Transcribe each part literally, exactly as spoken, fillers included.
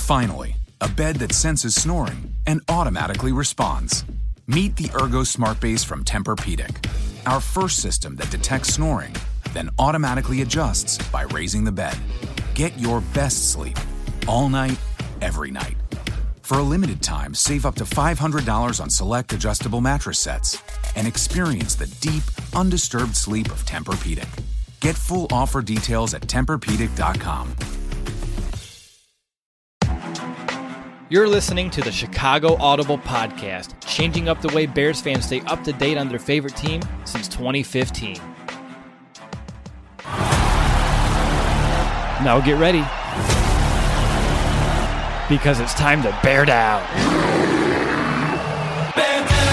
Finally, a bed that senses snoring and automatically responds. Meet the Ergo Smart Base from Tempur-Pedic, our first system that detects snoring, then automatically adjusts by raising the bed. Get your best sleep all night, every night. For a limited time, save up to five hundred dollars on select adjustable mattress sets and experience the deep, undisturbed sleep of Tempur-Pedic. Get full offer details at Tempur Pedic dot com. You're listening to the Chicago Audible Podcast, changing up the way Bears fans stay up to date on their favorite team since twenty fifteen. Now get ready, because it's time to bear down. Bear down.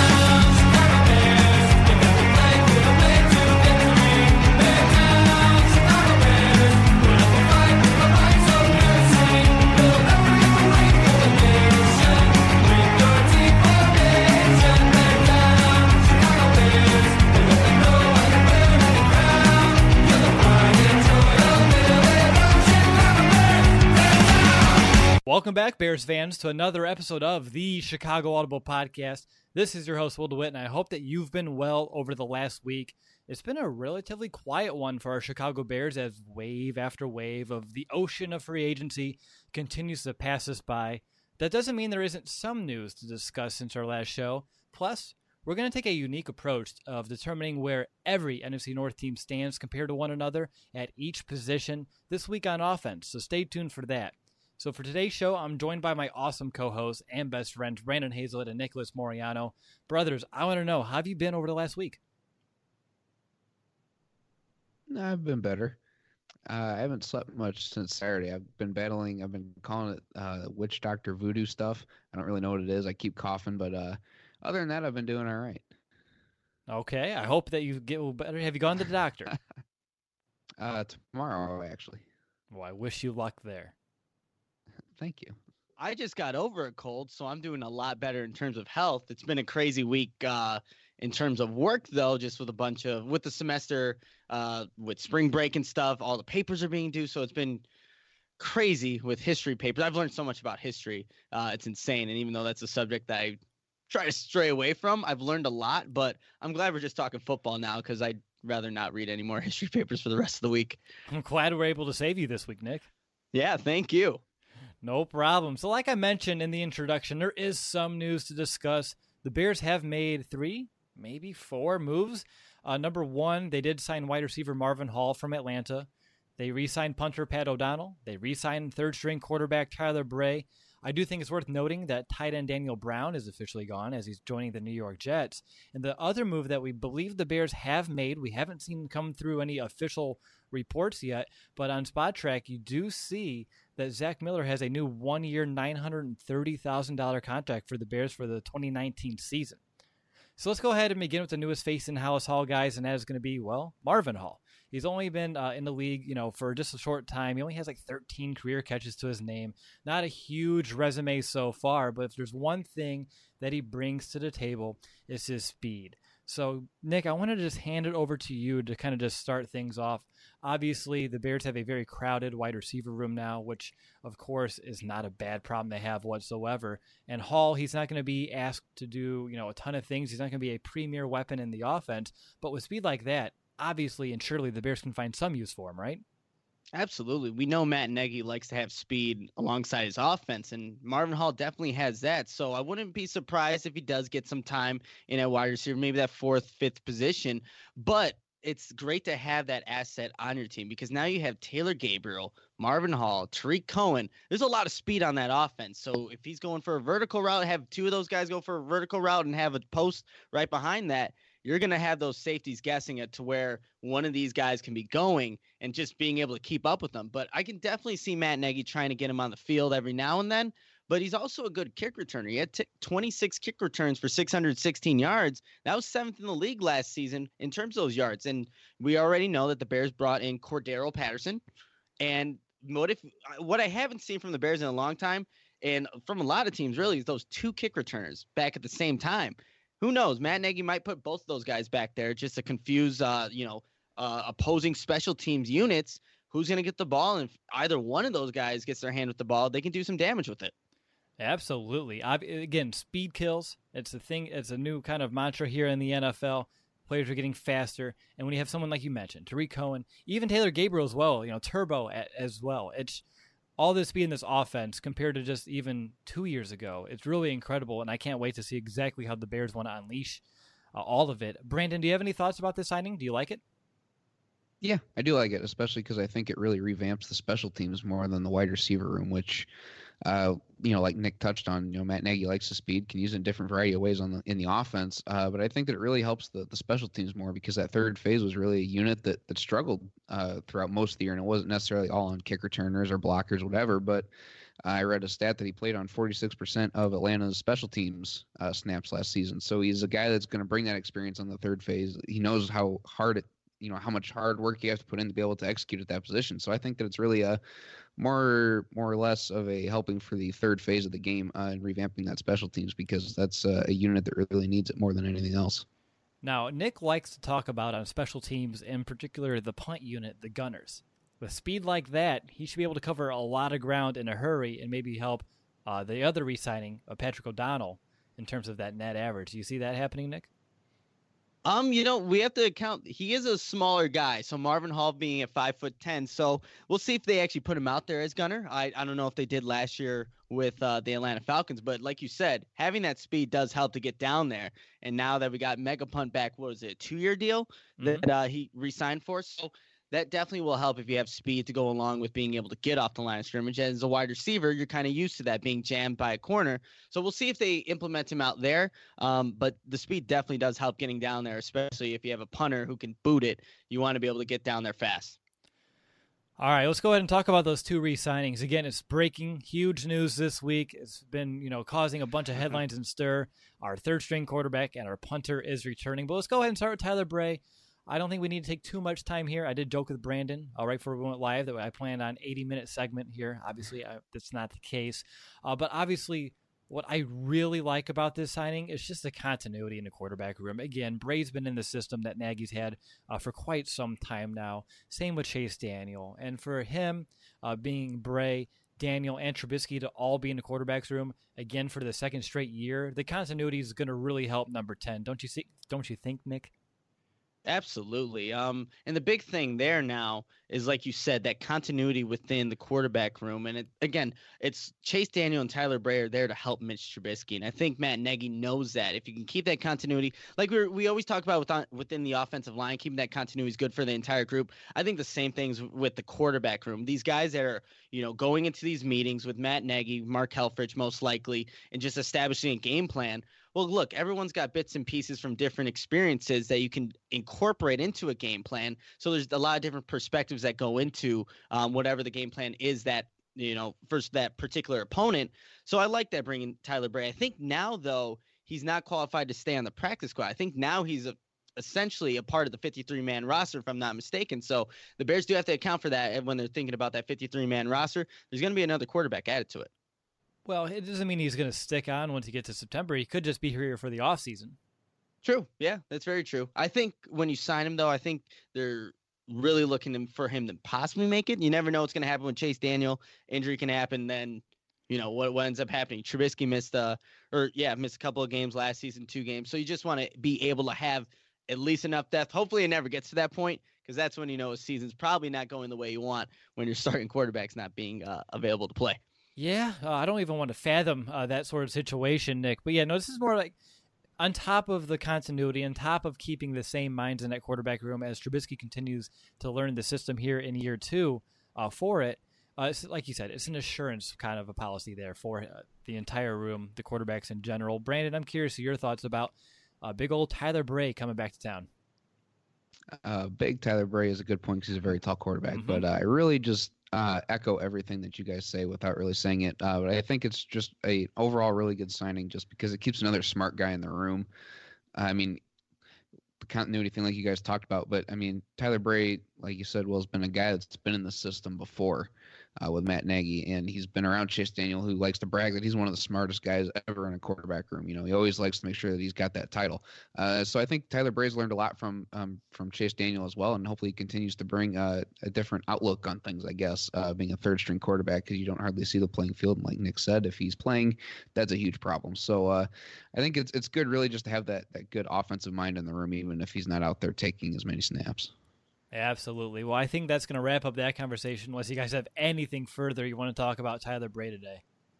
Welcome back, Bears fans, to another episode of the Chicago Audible Podcast. This is your host, Will DeWitt, and I hope that you've been well over the last week. It's been a relatively quiet one for our Chicago Bears as wave after wave of the ocean of free agency continues to pass us by. That doesn't mean there isn't some news to discuss since our last show. Plus, we're going to take a unique approach of determining where every N F C North team stands compared to one another at each position this week on offense, so stay tuned for that. So for today's show, I'm joined by my awesome co-hosts and best friends, Brandon Hazlett and Nicholas Moriano. Brothers, I want to know, how have you been over the last week? I've been better. Uh, I haven't slept much since Saturday. I've been battling. I've been calling it uh, witch doctor voodoo stuff. I don't really know what it is. I keep coughing, but uh, other than that, I've been doing all right. Okay, I hope that you get better. Have you gone to the doctor? uh, tomorrow, actually. Well, I wish you luck there. Thank you. I just got over a cold, so I'm doing a lot better in terms of health. It's been a crazy week uh, in terms of work, though, just with a bunch of, with the semester, uh, with spring break and stuff, all the papers are being due. So it's been crazy with history papers. I've learned so much about history. Uh, it's insane. And even though that's a subject that I try to stray away from, I've learned a lot. But I'm glad we're just talking football now, because I'd rather not read any more history papers for the rest of the week. I'm glad we're able to save you this week, Nick. Yeah, thank you. No problem. So like I mentioned in the introduction, there is some news to discuss. The Bears have made three, maybe four moves. Uh, number one, they did sign wide receiver Marvin Hall from Atlanta. They re-signed punter Pat O'Donnell. They re-signed third-string quarterback Tyler Bray. I do think it's worth noting that tight end Daniel Brown is officially gone as he's joining the New York Jets. And the other move that we believe the Bears have made, we haven't seen come through any official reports yet, but on Spot Track, you do see that Zach Miller has a new one-year, nine hundred thirty thousand dollars contract for the Bears for the twenty nineteen season. So let's go ahead and begin with the newest face in Hallis Hall, guys, and that is going to be, well, Marvin Hall. He's only been uh, in the league, you know, for just a short time. He only has like thirteen career catches to his name. Not a huge resume so far, but if there's one thing that he brings to the table, it's his speed. So, Nick, I wanted to just hand it over to you to kind of just start things off. Obviously, the Bears have a very crowded wide receiver room now, which, of course, is not a bad problem they have whatsoever. And Hall, he's not going to be asked to do, you know, a ton of things. He's not going to be a premier weapon in the offense. But with speed like that, obviously and surely the Bears can find some use for him, right? Absolutely. We know Matt Nagy likes to have speed alongside his offense, and Marvin Hall definitely has that. So I wouldn't be surprised if he does get some time in a wide receiver, maybe that fourth, fifth position. But it's great to have that asset on your team, because now you have Taylor Gabriel, Marvin Hall, Tariq Cohen. There's a lot of speed on that offense. So if he's going for a vertical route, have two of those guys go for a vertical route and have a post right behind that, you're going to have those safeties guessing it to where one of these guys can be going and just being able to keep up with them. But I can definitely see Matt Nagy trying to get him on the field every now and then. But he's also a good kick returner. He had t- twenty-six kick returns for six hundred sixteen yards. That was seventh in the league last season in terms of those yards. And we already know that the Bears brought in Cordero Patterson. And what if what I haven't seen from the Bears in a long time, and from a lot of teams really, is those two kick returners back at the same time. Who knows? Matt Nagy might put both of those guys back there just to confuse, uh, you know, uh, opposing special teams units. who's going to get the ball. And if either one of those guys gets their hand with the ball, they can do some damage with it. Absolutely. I've, again, speed kills. It's a thing. It's a new kind of mantra here in the N F L. Players are getting faster, and when you have someone like you mentioned, Tariq Cohen, even Taylor Gabriel as well, you know, Turbo as well. It's all this speed in this offense compared to just even two years ago. It's really incredible, and I can't wait to see exactly how the Bears want to unleash uh, all of it. Brandon, do you have any thoughts about this signing? Do you like it? Yeah, I do like it, especially because I think it really revamps the special teams more than the wide receiver room, which, uh, you know, like Nick touched on, you know, Matt Nagy likes the speed, can use it in different variety of ways on the in the offense. Uh, but I think that it really helps the, the special teams more because that third phase was really a unit that that struggled uh, throughout most of the year, and it wasn't necessarily all on kick returners or blockers, whatever. But I read a stat that he played on forty-six percent of Atlanta's special teams uh, snaps last season. So he's a guy that's going to bring that experience on the third phase. He knows how hard it you know, how much hard work you have to put in to be able to execute at that position. So I think that it's really a more, more or less of a helping for the third phase of the game uh, and revamping that special teams because that's uh, a unit that really needs it more than anything else. Now, Nick likes to talk about on special teams, in particular the punt unit, the Gunners. With speed like that, he should be able to cover a lot of ground in a hurry and maybe help uh, the other re-signing of Patrick O'Donnell in terms of that net average. Do you see that happening, Nick? Um, you know, we have to account. He is a smaller guy, so Marvin Hall being at five foot ten. So we'll see if they actually put him out there as gunner. I, I don't know if they did last year with uh, the Atlanta Falcons, but like you said, having that speed does help to get down there. And now that we got Mega Punt back, what was it, a two year deal mm-hmm. that uh, he re-signed for? So that definitely will help if you have speed to go along with being able to get off the line of scrimmage. As a wide receiver, you're kind of used to that being jammed by a corner. So we'll see if they implement him out there. Um, but the speed definitely does help getting down there, especially if you have a punter who can boot it. You want to be able to get down there fast. All right, let's go ahead and talk about those two re-signings. Again, it's breaking, huge news this week. It's been, you know, causing a bunch of headlines and stir. Our third-string quarterback and our punter is returning. But let's go ahead and start with Tyler Bray. I don't think we need to take too much time here. I did joke with Brandon uh, right before we went live that I planned on eighty-minute segment here. Obviously, I, that's not the case. Uh, but obviously, what I really like about this signing is just the continuity in the quarterback room. Again, Bray's been in the system that Nagy's had uh, for quite some time now. Same with Chase Daniel. And for him, uh, being Bray, Daniel, and Trubisky to all be in the quarterback's room, again, for the second straight year, the continuity is going to really help number ten. Don't you see? Don't you think, Nick? Absolutely. Um, and the big thing there now is, like you said, that continuity within the quarterback room. And it, again, it's Chase Daniel and Tyler Bray are there to help Mitch Trubisky. And I think Matt Nagy knows that. If you can keep that continuity, like we we always talk about with, within the offensive line, keeping that continuity is good for the entire group. I think the same things with the quarterback room. These guys that are, you know, going into these meetings with Matt Nagy, Mark Helfrich most likely, and just establishing a game plan. Well, look, everyone's got bits and pieces from different experiences that you can incorporate into a game plan. So there's a lot of different perspectives that go into um, whatever the game plan is that, you know, for that particular opponent. So I like that bringing Tyler Bray. I think now, though, he's not qualified to stay on the practice squad. I think now he's a, essentially a part of the fifty-three man roster, if I'm not mistaken. So the Bears do have to account for that when they're thinking about that fifty-three man roster. There's going to be another quarterback added to it. Well, it doesn't mean he's going to stick on once he gets to September. He could just be here for the offseason. True. Yeah, that's very true. I think when you sign him, though, I think they're really looking for him to possibly make it. You never know what's going to happen with Chase Daniel. Injury can happen. Then, you know, what, what ends up happening? Trubisky missed, uh, or yeah, missed a couple of games last season, two games. So you just want to be able to have at least enough depth. Hopefully it never gets to that point, because that's when you know a season's probably not going the way you want when your starting quarterback's not being uh, available to play. Yeah, uh, I don't even want to fathom uh, that sort of situation, Nick. But yeah, no, this is more like on top of the continuity, on top of keeping the same minds in that quarterback room as Trubisky continues to learn the system here in year two uh, for it. Uh, it's, like you said, it's an assurance kind of a policy there for uh, the entire room, the quarterbacks in general. Brandon, I'm curious of your thoughts about uh, big old Tyler Bray coming back to town. Uh, big Tyler Bray is a good point because he's a very tall quarterback, Mm-hmm. but uh, I really just uh, echo everything that you guys say without really saying it. Uh, but I think it's just a overall really good signing just because it keeps another smart guy in the room. I mean, the continuity thing like you guys talked about, but I mean, Tyler Bray, like you said, well, has been a guy that's been in the system before. uh, with Matt Nagy, and he's been around Chase Daniel, who likes to brag that he's one of the smartest guys ever in a quarterback room. You know, he always likes to make sure that he's got that title. Uh, so I think Tyler Bray's learned a lot from um, from Chase Daniel as well, and hopefully he continues to bring uh, a different outlook on things, I guess, uh, being a third string quarterback, because you don't hardly see the playing field. And like Nick said, if he's playing, that's a huge problem. So uh, I think it's it's good really just to have that, that good offensive mind in the room, even if he's not out there taking as many snaps. Absolutely. Well, I think that's going to wrap up that conversation unless you guys have anything further you want to talk about Tyler Bray today.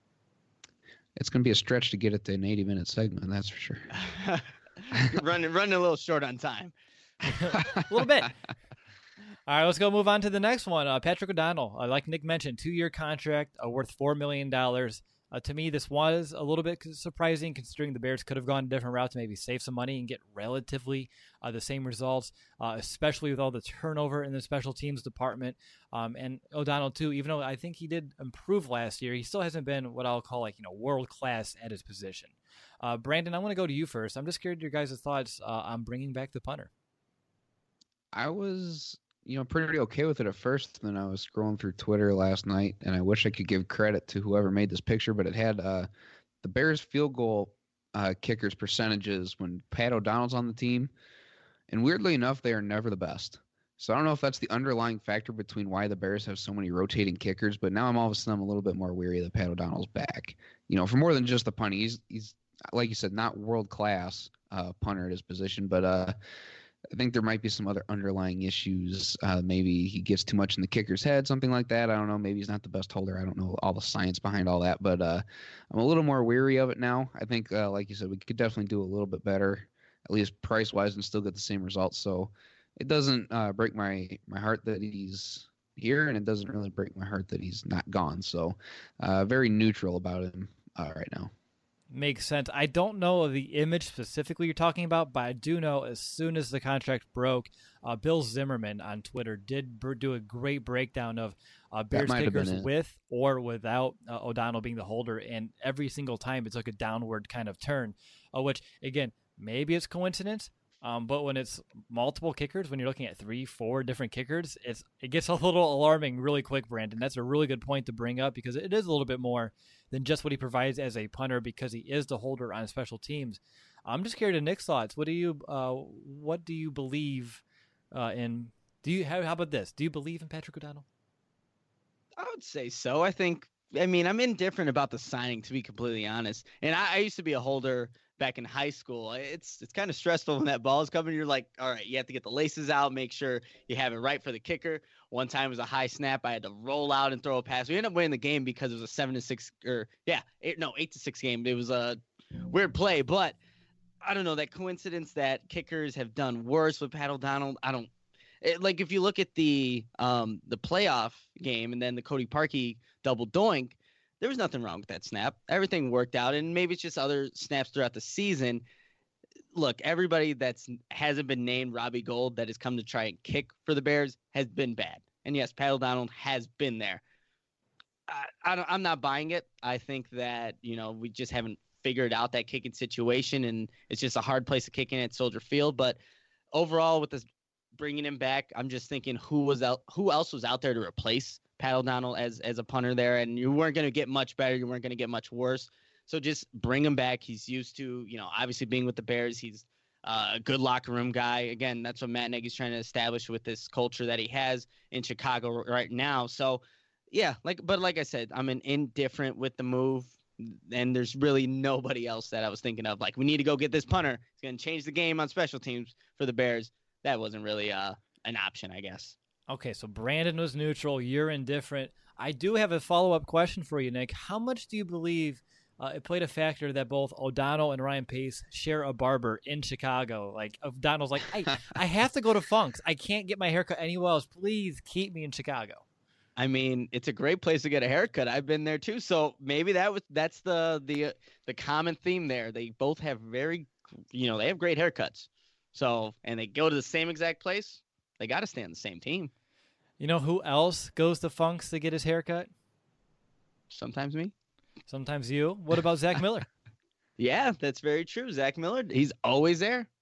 It's going to be a stretch to get it to an eighty-minute segment, that's for sure. running, running a little short on time. A little bit. All right, let's go move on to the next one. Uh, Patrick O'Donnell, uh, like Nick mentioned, two-year contract uh, worth four million dollars. Uh, to me, this was a little bit surprising considering the Bears could have gone a different route to maybe save some money and get relatively uh, the same results, uh, especially with all the turnover in the special teams department. Um, and O'Donnell, too, even though I think he did improve last year, he still hasn't been what I'll call like, you know, world-class at his position. Uh, Brandon, I want to go to you first. I'm just curious your guys' thoughts uh, on bringing back the punter. I was... you know, pretty okay with it at first. Then I was scrolling through Twitter last night, and I wish I could give credit to whoever made this picture, but it had uh, the Bears field goal uh, kickers percentages when Pat O'Donnell's on the team. And weirdly enough, they are never the best. So I don't know if that's the underlying factor between why the Bears have so many rotating kickers, but now I'm all of a sudden I'm a little bit more weary that Pat O'Donnell's back. You know, for more than just the punting. He's, he's like you said, not world-class uh, punter at his position, but uh, I think there might be some other underlying issues. Uh, maybe he gets too much in the kicker's head, something like that. I don't know. Maybe he's not the best holder. I don't know all the science behind all that, but uh, I'm a little more weary of it now. I think, uh, like you said, we could definitely do a little bit better, at least price-wise, and still get the same results. So it doesn't uh, break my, my heart that he's here, and it doesn't really break my heart that he's not gone. So uh, very neutral about him uh, right now. Makes sense. I don't know the image specifically you're talking about, but I do know as soon as the contract broke, uh, Bill Zimmerman on Twitter did b- do a great breakdown of uh, Bears kickers with or without uh, O'Donnell being the holder, and every single time it took a downward kind of turn, uh, which, again, maybe it's coincidence, um, but when it's multiple kickers, when you're looking at three, four different kickers, it's it gets a little alarming really quick, Brandon. That's a really good point to bring up because it is a little bit more than just what he provides as a punter because he is the holder on special teams. I'm just curious to Nick's thoughts. What do you uh, what do you believe uh, in? Do you how, how about this? Do you believe in Patrick O'Donnell? I would say so. I think. I mean, I'm indifferent about the signing, to be completely honest. And I, I used to be a holder back in high school. It's it's kind of stressful when that ball is coming. You're like, all right, you have to get the laces out, make sure you have it right for the kicker. One time it was a high snap. I had to roll out and throw a pass. We ended up winning the game because it was a seven to six or yeah, eight, no, eight to six game. It was a weird play, but I don't know, that coincidence that kickers have done worse with Pat O'Donnell. I don't it, like if you look at the um the playoff game and then the Cody Parkey double doink. There was nothing wrong with that snap. Everything worked out, and maybe it's just other snaps throughout the season. Look, everybody that's hasn't been named Robbie Gould that has come to try and kick for the Bears has been bad. And yes, Pat O'Donnell has been there. I, I don't, I'm not buying it. I think that, you know, we just haven't figured out that kicking situation, and it's just a hard place to kick in at Soldier Field. But overall, with this bringing him back, I'm just thinking who was out, who else was out there to replace Pat O'Donnell as as a punter there, and you weren't going to get much better. You weren't going to get much worse. So just bring him back. He's used to, you know, obviously being with the Bears. He's uh, a good locker room guy. Again, that's what Matt Nagy's trying to establish with this culture that he has in Chicago right now. So, yeah, like, but like I said, I'm an indifferent with the move, and there's really nobody else that I was thinking of. Like, we need to go get this punter. It's going to change the game on special teams for the Bears. That wasn't really uh, an option, I guess. Okay, so Brandon was neutral. You're indifferent. I do have a follow-up question for you, Nick. How much do you believe uh, it played a factor that both O'Donnell and Ryan Pace share a barber in Chicago? Like, O'Donnell's like, I, I have to go to Funk's. I can't get my haircut anywhere else. Please keep me in Chicago. I mean, it's a great place to get a haircut. I've been there too. So maybe that was that's the the the common theme there. They both have very, you know, they have great haircuts. So, and they go to the same exact place. They got to stay on the same team. You know who else goes to Funk's to get his haircut? Sometimes me. Sometimes you. What about Zach Miller? Yeah, that's very true. Zach Miller, he's always there.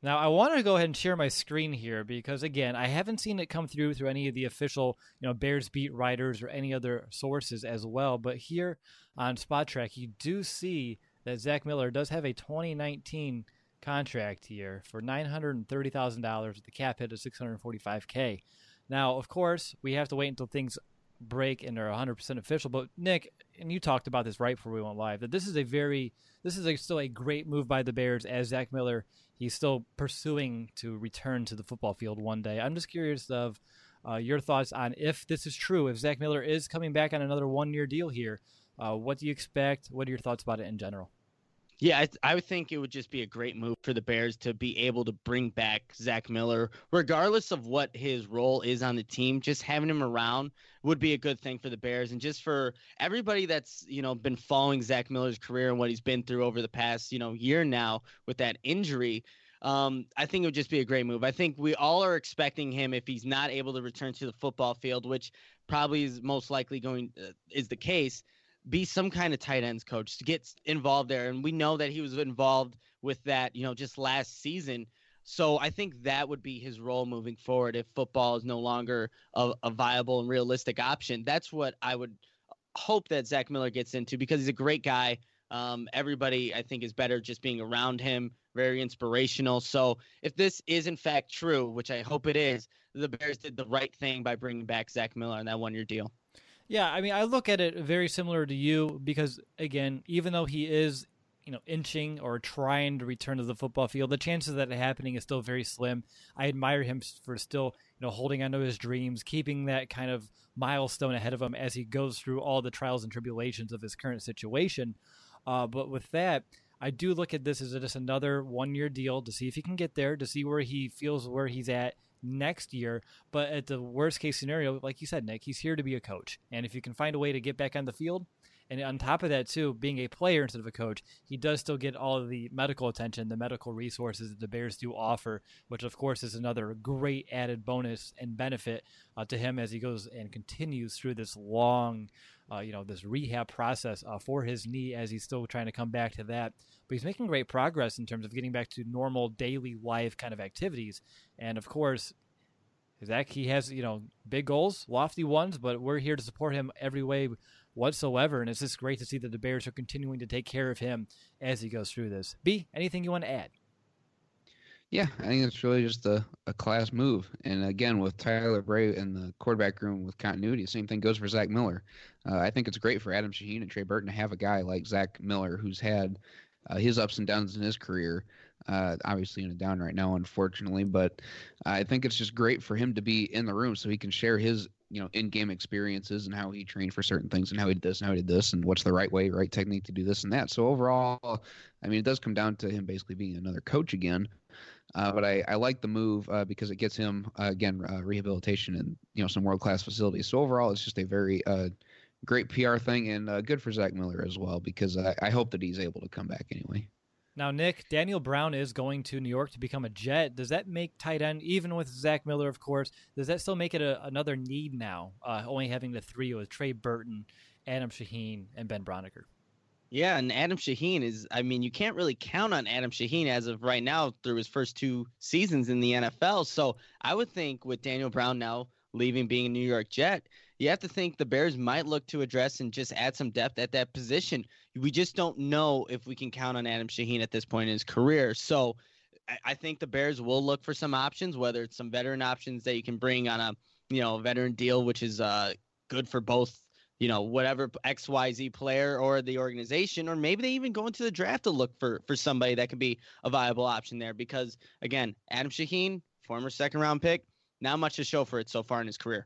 Now, I want to go ahead and share my screen here because, again, I haven't seen it come through through any of the official, you know, Bears beat writers or any other sources as well. But here on Spot Track, you do see that Zach Miller does have a twenty nineteen contract here for nine hundred thirty thousand dollars with the cap hit of six hundred forty-five thousand dollars. Now, of course, we have to wait until things break and are one hundred percent official. But, Nick, and you talked about this right before we went live, that this is a very, this is a, still a great move by the Bears as Zach Miller, he's still pursuing to return to the football field one day. I'm just curious of uh, your thoughts on if this is true, if Zach Miller is coming back on another one-year deal here. Uh, what do you expect? What are your thoughts about it in general? Yeah, I, I would think it would just be a great move for the Bears to be able to bring back Zach Miller, regardless of what his role is on the team. Just having him around would be a good thing for the Bears, and just for everybody that's, you know, been following Zach Miller's career and what he's been through over the past, you know, year now with that injury. Um, I think it would just be a great move. I think we all are expecting him, if he's not able to return to the football field, which probably is most likely going uh, is the case, be some kind of tight ends coach to get involved there. And we know that he was involved with that, you know, just last season. So I think that would be his role moving forward if football is no longer a, a viable and realistic option. That's what I would hope that Zach Miller gets into, because he's a great guy. Um, everybody, I think, is better just being around him, very inspirational. So if this is in fact true, which I hope it is, the Bears did the right thing by bringing back Zach Miller on that one-year deal. Yeah, I mean, I look at it very similar to you because, again, even though he is, you know, inching or trying to return to the football field, the chances of that happening is still very slim. I admire him for still, you know, holding on to his dreams, keeping that kind of milestone ahead of him as he goes through all the trials and tribulations of his current situation. Uh, but with that, I do look at this as just another one-year deal to see if he can get there, to see where he feels where he's at next year. But at the worst case scenario, like you said, Nick, he's here to be a coach. And if you can find a way to get back on the field, and on top of that too, being a player instead of a coach, he does still get all of the medical attention, the medical resources that the Bears do offer, which of course is another great added bonus and benefit uh, to him as he goes and continues through this long uh, you know, this rehab process uh, for his knee as he's still trying to come back to that. But he's making great progress in terms of getting back to normal daily life kind of activities. And of course, Zach, he has, you know, big goals, lofty ones, but we're here to support him every way whatsoever. And it's just great to see that the Bears are continuing to take care of him as he goes through this. B, anything you want to add? Yeah, I think it's really just a, a class move. And again, with Tyler Bray in the quarterback room with continuity, the same thing goes for Zach Miller. Uh, I think it's great for Adam Shaheen and Trey Burton to have a guy like Zach Miller who's had uh, his ups and downs in his career. Uh, obviously in a down right now, unfortunately, but I think it's just great for him to be in the room so he can share his, you know, in-game experiences and how he trained for certain things and how he did this and how he did this and what's the right way, right technique to do this and that. So overall, I mean, it does come down to him basically being another coach again. Uh, but I, I like the move uh, because it gets him, uh, again, uh, rehabilitation and, you know, some world-class facilities. So overall, it's just a very uh, great P R thing and uh, good for Zach Miller as well, because I, I hope that he's able to come back anyway. Now, Nick, Daniel Brown is going to New York to become a Jet. Does that make tight end, even with Zach Miller, of course, does that still make it a, another need now, uh, only having the three with Trey Burton, Adam Shaheen, and Ben Broniker? Yeah, and Adam Shaheen is, I mean, you can't really count on Adam Shaheen as of right now through his first two seasons in the N F L. So I would think with Daniel Brown now leaving, being a New York Jet, you have to think the Bears might look to address and just add some depth at that position. We just don't know if we can count on Adam Shaheen at this point in his career. So I, I think the Bears will look for some options, whether it's some veteran options that you can bring on a, you know, veteran deal, which is uh, good for both, you know, whatever X Y Z player or the organization, or maybe they even go into the draft to look for, for somebody that could be a viable option there. Because, again, Adam Shaheen, former second-round pick, not much to show for it so far in his career.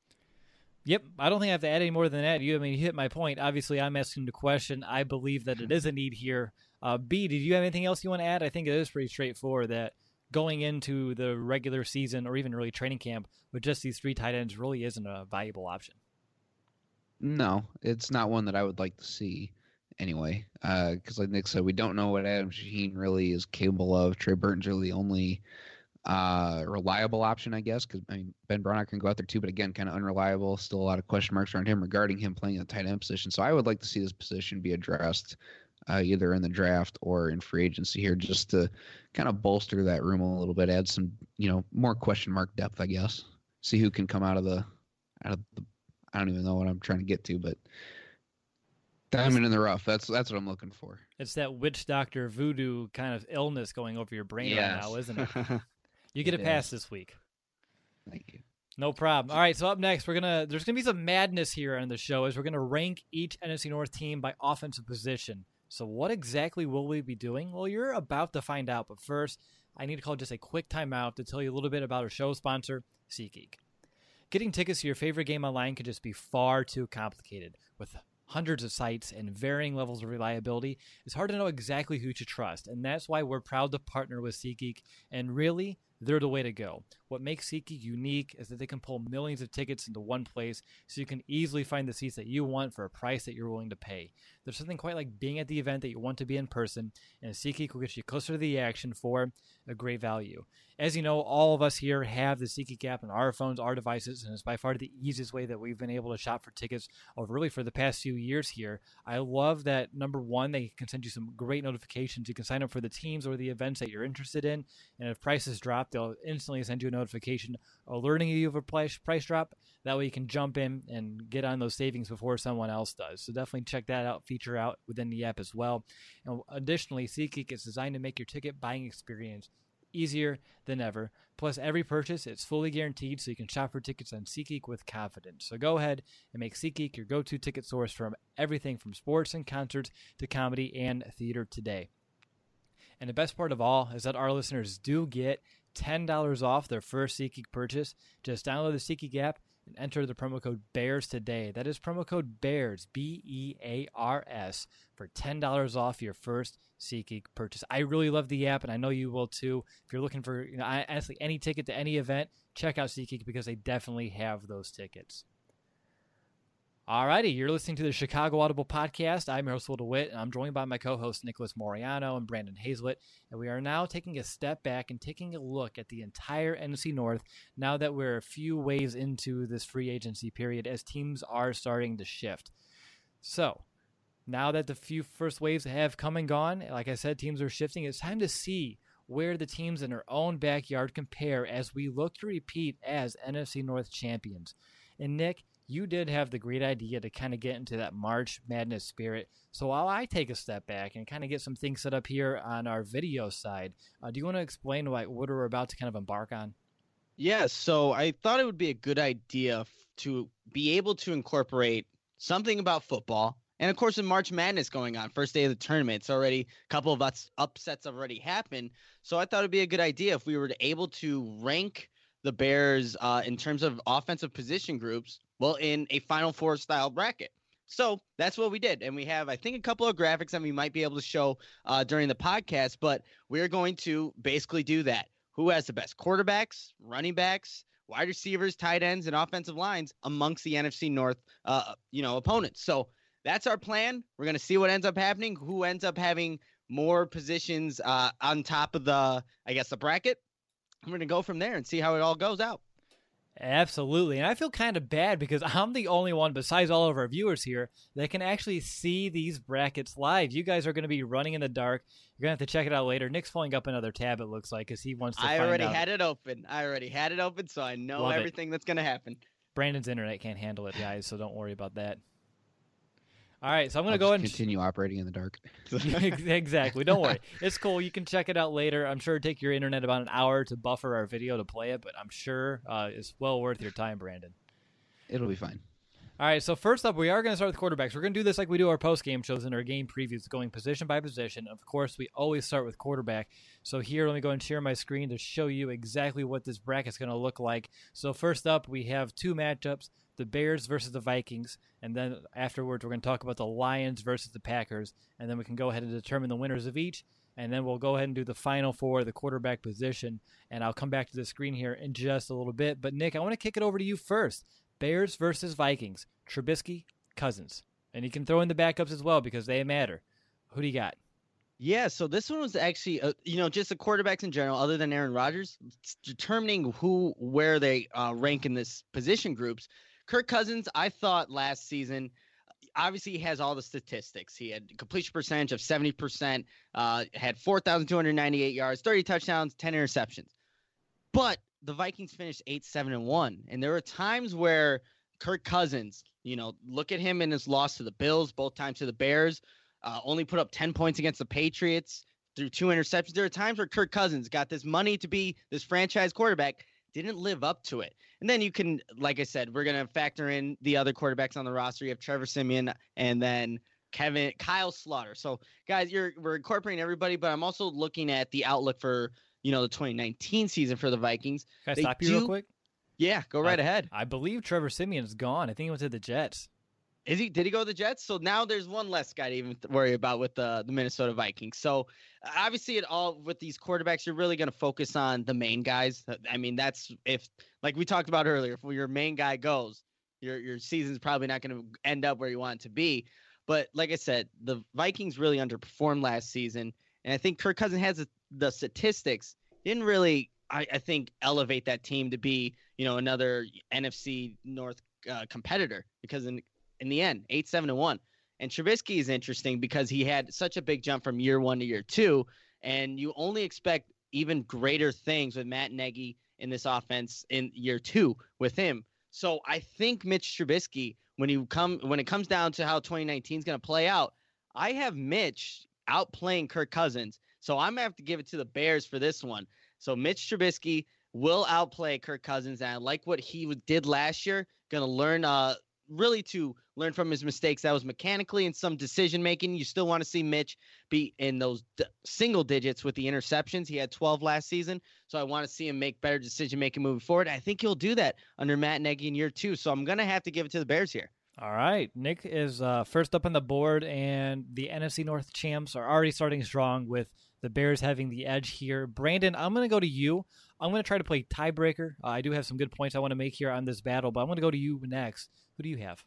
Yep, I don't think I have to add any more than that. You, I mean, you hit my point. Obviously, I'm asking the question. I believe that it is a need here. Uh, B, did you have anything else you want to add? I think it is pretty straightforward that going into the regular season or even early training camp with just these three tight ends really isn't a valuable option. No, it's not one that I would like to see anyway, because uh, like Nick said, we don't know what Adam Shaheen really is capable of. Trey Burton's really the only uh, reliable option, I guess, because I mean, Ben Broniker can go out there too, but again, kind of unreliable. Still a lot of question marks around him regarding him playing a tight end position. So I would like to see this position be addressed uh, either in the draft or in free agency here, just to kind of bolster that room a little bit, add some, you know, more question mark depth, I guess. See who can come out of the, out of the, I don't even know what I'm trying to get to, but diamond in the rough. That's that's what I'm looking for. It's that witch doctor voodoo kind of illness going over your brain yes. right now, isn't it? You get it a pass is. this week. Thank you. No problem. All right, so up next, we're gonna there's gonna be some madness here on the show as we're gonna rank each N F C North team by offensive position. So what exactly will we be doing? Well, you're about to find out, but first, I need to call just a quick timeout to tell you a little bit about our show sponsor, SeatGeek. Getting tickets to your favorite game online can just be far too complicated. With hundreds of sites and varying levels of reliability, it's hard to know exactly who to trust, and that's why we're proud to partner with SeatGeek, and really, they're the way to go. What makes SeatGeek unique is that they can pull millions of tickets into one place so you can easily find the seats that you want for a price that you're willing to pay. There's something quite like being at the event that you want to be in person, and SeatGeek will get you closer to the action for a great value. As you know, all of us here have the SeatGeek app on our phones, our devices, and it's by far the easiest way that we've been able to shop for tickets over really for the past few years here. I love that, number one, they can send you some great notifications. You can sign up for the teams or the events that you're interested in, and if prices drop, they'll instantly send you a notification alerting you of a price, price drop. That way you can jump in and get on those savings before someone else does. So definitely check that out, feature out within the app as well. And additionally, SeatGeek is designed to make your ticket buying experience easier than ever. Plus, every purchase is fully guaranteed, so you can shop for tickets on SeatGeek with confidence. So go ahead and make SeatGeek your go-to ticket source from everything from sports and concerts to comedy and theater today. And the best part of all is that our listeners do get ten dollars off their first SeatGeek purchase. Just download the SeatGeek app and enter the promo code BEARS today. That is promo code BEARS, B E A R S, for ten dollars off your first SeatGeek purchase. I really love the app, and I know you will too. If you're looking for, you know, honestly, any ticket to any event, check out SeatGeek because they definitely have those tickets. Alrighty, you're listening to the Chicago Audible Podcast. I'm your host, Will DeWitt, and I'm joined by my co-hosts, Nicholas Moriano and Brandon Hazlett. And we are now taking a step back and taking a look at the entire N F C North now that we're a few waves into this free agency period as teams are starting to shift. So, now that the few first waves have come and gone, like I said, teams are shifting, it's time to see where the teams in their own backyard compare as we look to repeat as N F C North champions. And Nick, you did have the great idea to kind of get into that March Madness spirit. So while I take a step back and kind of get some things set up here on our video side, uh, do you want to explain what, what we're about to kind of embark on? Yeah, so I thought it would be a good idea f- to be able to incorporate something about football. And, of course, in March Madness going on, first day of the tournament, it's already a couple of us upsets have already happened. So I thought it would be a good idea if we were to able to rank the Bears uh, in terms of offensive position groups, well, in a Final Four style bracket. So that's what we did. And we have, I think, a couple of graphics that we might be able to show uh, during the podcast, but we're going to basically do that. Who has the best quarterbacks, running backs, wide receivers, tight ends, and offensive lines amongst the N F C North, uh, you know, opponents. So that's our plan. We're going to see what ends up happening, who ends up having more positions uh, on top of the, I guess, the bracket. I'm going to go from there and see how it all goes out. Absolutely. And I feel kind of bad because I'm the only one besides all of our viewers here that can actually see these brackets live. You guys are going to be running in the dark. You're going to have to check it out later. Nick's pulling up another tab, it looks like, because he wants to I find already out. had it open. I already had it open, so I know Love everything it. that's going to happen. Brandon's internet can't handle it, guys, so don't worry about that. All right, so I'm going to I'll go just and continue operating in the dark. Exactly. Don't worry. It's cool. You can check it out later. I'm sure it'll take your internet about an hour to buffer our video to play it, but I'm sure uh, it's well worth your time, Brandon. It'll be fine. All right, so first up, we are going to start with quarterbacks. We're going to do this like we do our post-game shows and our game previews, going position by position. Of course, we always start with quarterback. So here, let me go and share my screen to show you exactly what this bracket's going to look like. So first up, we have two matchups, the Bears versus the Vikings, and then afterwards, we're going to talk about the Lions versus the Packers, and then we can go ahead and determine the winners of each, and then we'll go ahead and do the final for the quarterback position, and I'll come back to the screen here in just a little bit. But, Nick, I want to kick it over to you first. Bears versus Vikings, Trubisky, Cousins. And you can throw in the backups as well because they matter. Who do you got? Yeah, so this one was actually, uh, you know, just the quarterbacks in general, other than Aaron Rodgers, determining who, where they uh, rank in this position groups. Kirk Cousins, I thought last season, obviously he has all the statistics. He had completion percentage of seventy percent, uh, had four thousand two hundred ninety-eight yards, thirty touchdowns, ten interceptions. But the Vikings finished eight, seven, and one. And there were times where Kirk Cousins, you know, look at him in his loss to the Bills, both times to the Bears, uh, only put up ten points against the Patriots through two interceptions. There are times where Kirk Cousins got this money to be this franchise quarterback, didn't live up to it. And then you can, like I said, we're going to factor in the other quarterbacks on the roster. You have Trevor Siemian and then Kevin, Kyle Slaughter. So guys, you're, we're incorporating everybody, but I'm also looking at the outlook for, you know, the twenty nineteen season for the Vikings. Can I They stop you do, real quick? Yeah, go right I, ahead. I believe Trevor Siemian's gone. I think he went to the Jets. Is he? Did he go to the Jets? So now there's one less guy to even worry about with the, the Minnesota Vikings. So obviously, it all with these quarterbacks, you're really going to focus on the main guys. I mean, that's if, like we talked about earlier, if your main guy goes, your your season's probably not going to end up where you want it to be. But like I said, the Vikings really underperformed last season, and I think Kirk Cousins has a, the statistics. Didn't really, I, I think, elevate that team to be, you know, another N F C North uh, competitor because in in the end, eight, seven, and one. And Trubisky is interesting because he had such a big jump from year one to year two, and you only expect even greater things with Matt Nagy in this offense in year two with him. So I think Mitch Trubisky, when you come when it comes down to how twenty nineteen is going to play out, I have Mitch outplaying Kirk Cousins. So I'm going to have to give it to the Bears for this one. So Mitch Trubisky will outplay Kirk Cousins, and I like what he did last year. Going to learn uh really to learn from his mistakes. That was mechanically and some decision making. You still want to see Mitch be in those d- single digits with the interceptions. He had twelve last season, so I want to see him make better decision making moving forward. I think he'll do that under Matt Nagy in year two. So I'm gonna have to give it to the Bears here. All right, Nick is uh, first up on the board, and the N F C North champs are already starting strong with the Bears having the edge here. Brandon, I'm going to go to you. I'm going to try to play tiebreaker. Uh, I do have some good points I want to make here on this battle, but I'm going to go to you next. Who do you have?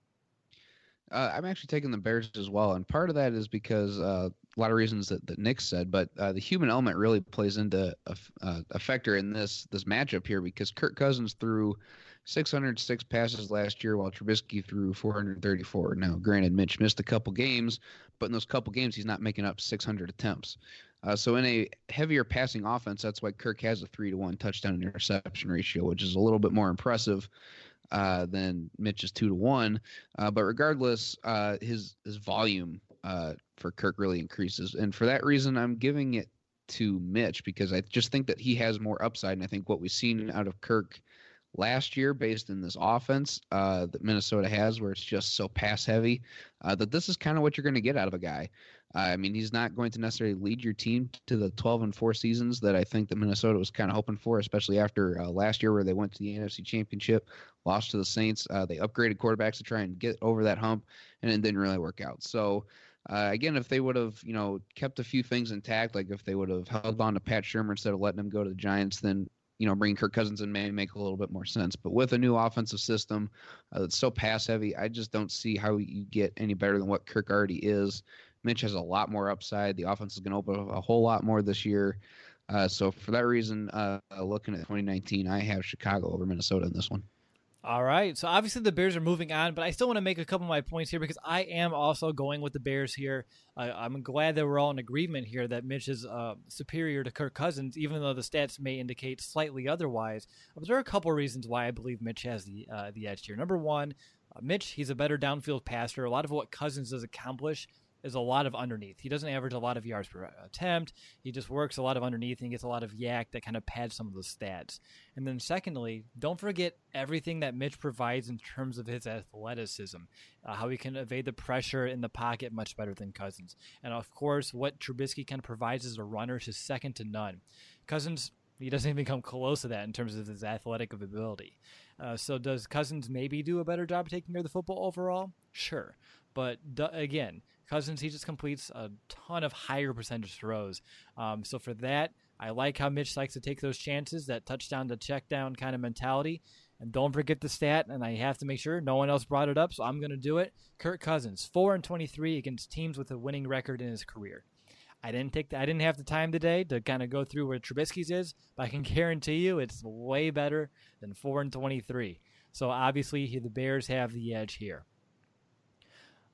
Uh, I'm actually taking the Bears as well, and part of that is because uh, a lot of reasons that, that Nick said, but uh, the human element really plays into a, uh, a factor in this this matchup here because Kirk Cousins threw six hundred six passes last year while Trubisky threw four hundred thirty-four. Now, granted, Mitch missed a couple games, but in those couple games, he's not making up six hundred attempts. Uh, so in a heavier passing offense, that's why Kirk has a three to one touchdown interception ratio, which is a little bit more impressive uh, than Mitch's two to one. Uh, but regardless, uh, his his volume uh, for Kirk really increases, and for that reason, I'm giving it to Mitch because I just think that he has more upside, and I think what we've seen out of Kirk last year based in this offense uh, that Minnesota has where it's just so pass heavy uh, that this is kind of what you're going to get out of a guy. Uh, I mean, he's not going to necessarily lead your team to the twelve and four seasons that I think that Minnesota was kind of hoping for, especially after uh, last year where they went to the N F C Championship, lost to the Saints. Uh, they upgraded quarterbacks to try and get over that hump, and it didn't really work out. So, Uh, again, if they would have, you know, kept a few things intact, like if they would have held on to Pat Shurmur instead of letting him go to the Giants, then, you know, bringing Kirk Cousins in may make a little bit more sense. But with a new offensive system uh, that's so pass heavy, I just don't see how you get any better than what Kirk already is. Mitch has a lot more upside. The offense is going to open a whole lot more this year. Uh, so for that reason, uh, looking at twenty nineteen, I have Chicago over Minnesota in this one. All right. So obviously the Bears are moving on, but I still want to make a couple of my points here because I am also going with the Bears here. Uh, I'm glad that we're all in agreement here that Mitch is uh, superior to Kirk Cousins, even though the stats may indicate slightly otherwise. But there are a couple of reasons why I believe Mitch has the uh, the edge here. Number one, uh, Mitch, he's a better downfield passer. A lot of what Cousins does accomplish is a lot of underneath. He doesn't average a lot of yards per attempt. He just works a lot of underneath and gets a lot of yak that kind of pads some of those stats. And then secondly, don't forget everything that Mitch provides in terms of his athleticism, uh, how he can evade the pressure in the pocket much better than Cousins. And of course, what Trubisky kind of provides as a runner is second to none. Cousins, he doesn't even come close to that in terms of his athletic ability. Uh, so does Cousins maybe do a better job taking care of the football overall? Sure. But d- again, Cousins, he just completes a ton of higher percentage throws. Um, so for that, I like how Mitch likes to take those chances, that touchdown to check down kind of mentality. And don't forget the stat, and I have to make sure no one else brought it up, so I'm going to do it. Kirk Cousins, four and twenty-three against teams with a winning record in his career. I didn't take the, I didn't have the time today to kind of go through where Trubisky's is, but I can guarantee you it's way better than four and twenty-three. So obviously the Bears have the edge here.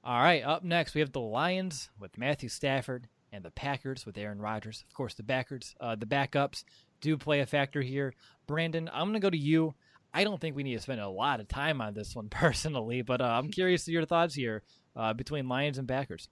All right, up next, we have the Lions with Matthew Stafford and the Packers with Aaron Rodgers. Of course, the backers, uh, the backups do play a factor here. Brandon, I'm going to go to you. I don't think we need to spend a lot of time on this one personally, but uh, I'm curious to your thoughts here uh, between Lions and Packers.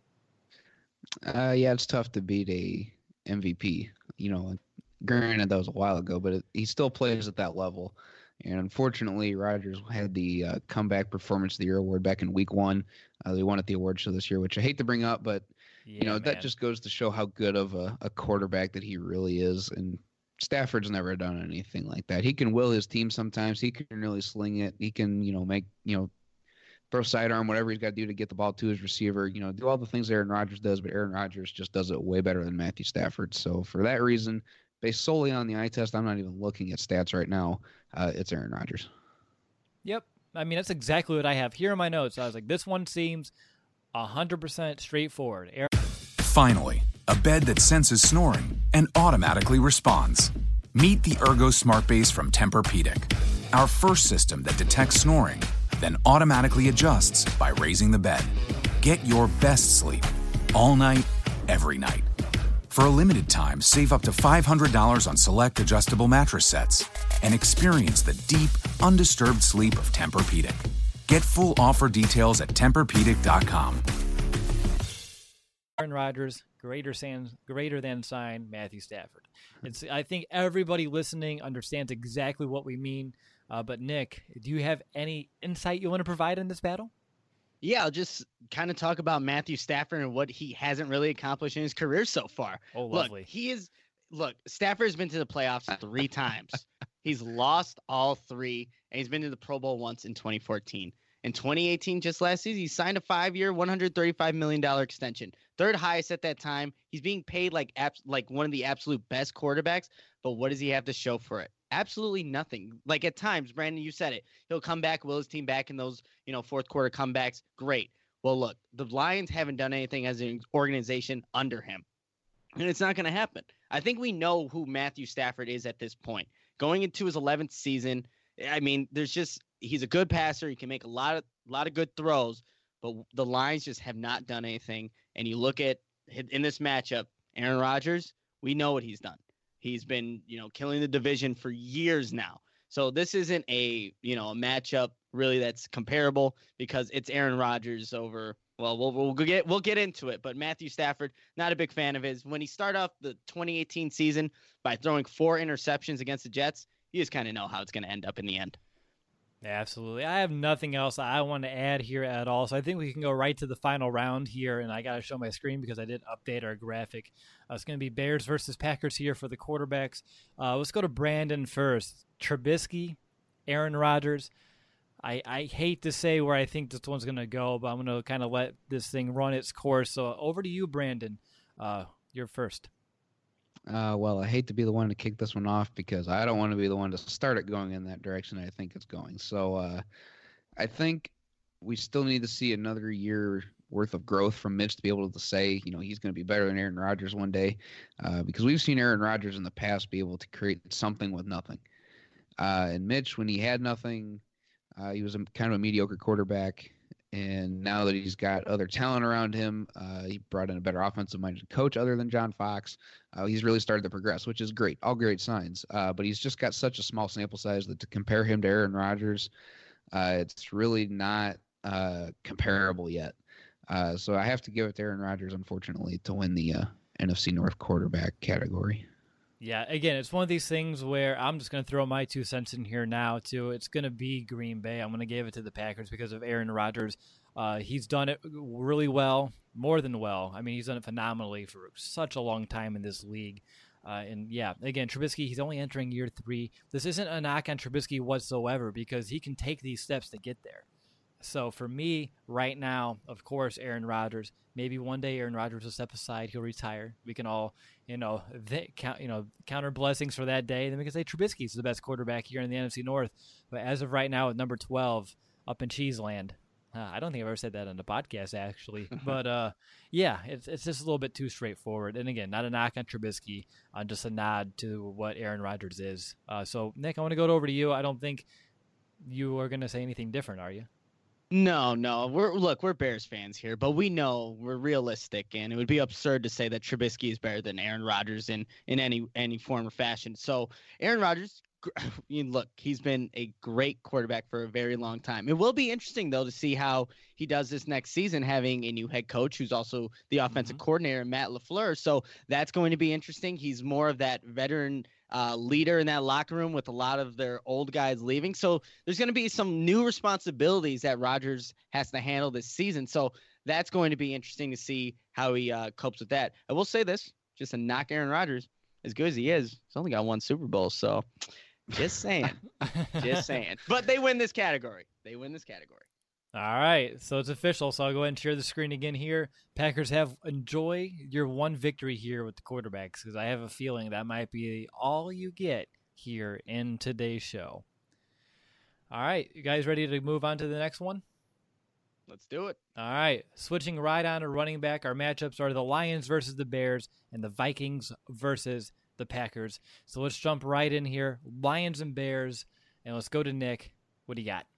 Uh, yeah, it's tough to beat a M V P. You know, granted that was a while ago, but it, he still plays at that level. And unfortunately, Rodgers had the uh, comeback performance of the year award back in week one. Uh, they won at the award show this year, which I hate to bring up, but Yeah, you know man. that just goes to show how good of a, a quarterback that he really is. And Stafford's never done anything like that. He can will his team sometimes. He can really sling it. He can, you know, make, you know, throw sidearm, whatever he's got to do to get the ball to his receiver. You know, do all the things Aaron Rodgers does, but Aaron Rodgers just does it way better than Matthew Stafford. So for that reason, based solely on the eye test, I'm not even looking at stats right now. Uh, it's Aaron Rodgers. Yep. I mean, that's exactly what I have here in my notes. I was like, this one seems one hundred percent straightforward. Aaron- Finally, a bed that senses snoring and automatically responds. Meet the Ergo Smart Base from Tempur-Pedic, our first system that detects snoring, then automatically adjusts by raising the bed. Get your best sleep all night, every night. For a limited time, save up to five hundred dollars on select adjustable mattress sets and experience the deep, undisturbed sleep of Tempur-Pedic. Get full offer details at Tempur Pedic dot com. Aaron Rodgers, greater than, greater than sign Matthew Stafford. It's, I think everybody listening understands exactly what we mean. Uh, but Nick, do you have any insight you want to provide in this battle? Yeah, I'll just kind of talk about Matthew Stafford and what he hasn't really accomplished in his career so far. Oh, lovely. Look, he is look, Stafford's been to the playoffs three times. He's lost all three, and he's been to the Pro Bowl once in twenty fourteen. In twenty eighteen, just last season, he signed a five-year, one hundred thirty-five million dollars extension. Third highest at that time. He's being paid like abs- like one of the absolute best quarterbacks, but what does he have to show for it? Absolutely nothing. Like at times, Brandon, you said it. He'll come back, will his team back in those, you know, fourth quarter comebacks. Great. Well, look, the Lions haven't done anything as an organization under him, and it's not going to happen. I think we know who Matthew Stafford is at this point. Going into his eleventh season, I mean, there's just he's a good passer. He can make a lot of a lot of good throws, but the Lions just have not done anything. And you look at in this matchup, Aaron Rodgers, we know what he's done. He's been, you know, killing the division for years now. So this isn't a, you know, a matchup really that's comparable because it's Aaron Rodgers over. Well, we'll we'll get we'll get into it, but Matthew Stafford, not a big fan of his. When he started off the twenty eighteen season by throwing four interceptions against the Jets, you just kind of know how it's going to end up in the end. Absolutely. I have nothing else I want to add here at all. So I think we can go right to the final round here. And I got to show my screen because I did update our graphic. Uh, it's going to be Bears versus Packers here for the quarterbacks. Uh, let's go to Brandon first. Trubisky, Aaron Rodgers. I, I hate to say where I think this one's going to go, but I'm going to kind of let this thing run its course. So over to you, Brandon. Uh, you're first. Uh, well, I hate to be the one to kick this one off because I don't want to be the one to start it going in that direction I think it's going. So uh, I think we still need to see another year worth of growth from Mitch to be able to say, you know, he's going to be better than Aaron Rodgers one day uh, because we've seen Aaron Rodgers in the past be able to create something with nothing. Uh, and Mitch, when he had nothing, uh, he was a, kind of a mediocre quarterback. And now that he's got other talent around him, uh, he brought in a better offensive-minded coach other than John Fox. Uh, he's really started to progress, which is great. All great signs. Uh, but he's just got such a small sample size that to compare him to Aaron Rodgers, uh, it's really not uh, comparable yet. Uh, so I have to give it to Aaron Rodgers, unfortunately, to win the uh, N F C North quarterback category. Yeah, again, it's one of these things where I'm just going to throw my two cents in here now, too. It's going to be Green Bay. I'm going to give it to the Packers because of Aaron Rodgers. Uh, he's done it really well, more than well. I mean, he's done it phenomenally for such a long time in this league. Uh, and, yeah, again, Trubisky, he's only entering year three. This isn't a knock on Trubisky whatsoever because he can take these steps to get there. So for me, right now, of course, Aaron Rodgers. Maybe one day Aaron Rodgers will step aside. He'll retire. We can all, you know, th- count, you know, counter blessings for that day. Then we can say Trubisky's the best quarterback here in the N F C North. But as of right now, at number twelve, up in Cheeseland, uh, I don't think I've ever said that on the podcast actually. But uh, yeah, it's it's just a little bit too straightforward. And again, not a knock on Trubisky, uh, just a nod to what Aaron Rodgers is. Uh, so Nick, I want to go over to you. I don't think you are going to say anything different, are you? No, no. We're look, we're Bears fans here, but we know we're realistic, and it would be absurd to say that Trubisky is better than Aaron Rodgers in in any any form or fashion. So Aaron Rodgers, you look, he's been a great quarterback for a very long time. It will be interesting though to see how he does this next season, having a new head coach who's also the offensive mm-hmm. coordinator, Matt LaFleur. So that's going to be interesting. He's more of that veteran Uh, leader in that locker room with a lot of their old guys leaving. So there's going to be some new responsibilities that Rodgers has to handle this season. So that's going to be interesting to see how he uh, copes with that. I will say this, just to knock Aaron Rodgers, as good as he is, he's only got one Super Bowl. So just saying, just saying. But they win this category. They win this category. All right, so it's official. So I'll go ahead and share the screen again here. Packers have enjoy your one victory here with the quarterbacks, because I have a feeling that might be all you get here in today's show. All right, you guys ready to move on to the next one? Let's do it. All right, switching right on to running back. Our matchups are the Lions versus the Bears and the Vikings versus the Packers. So let's jump right in here. Lions and Bears, and let's go to Nick. What do you got?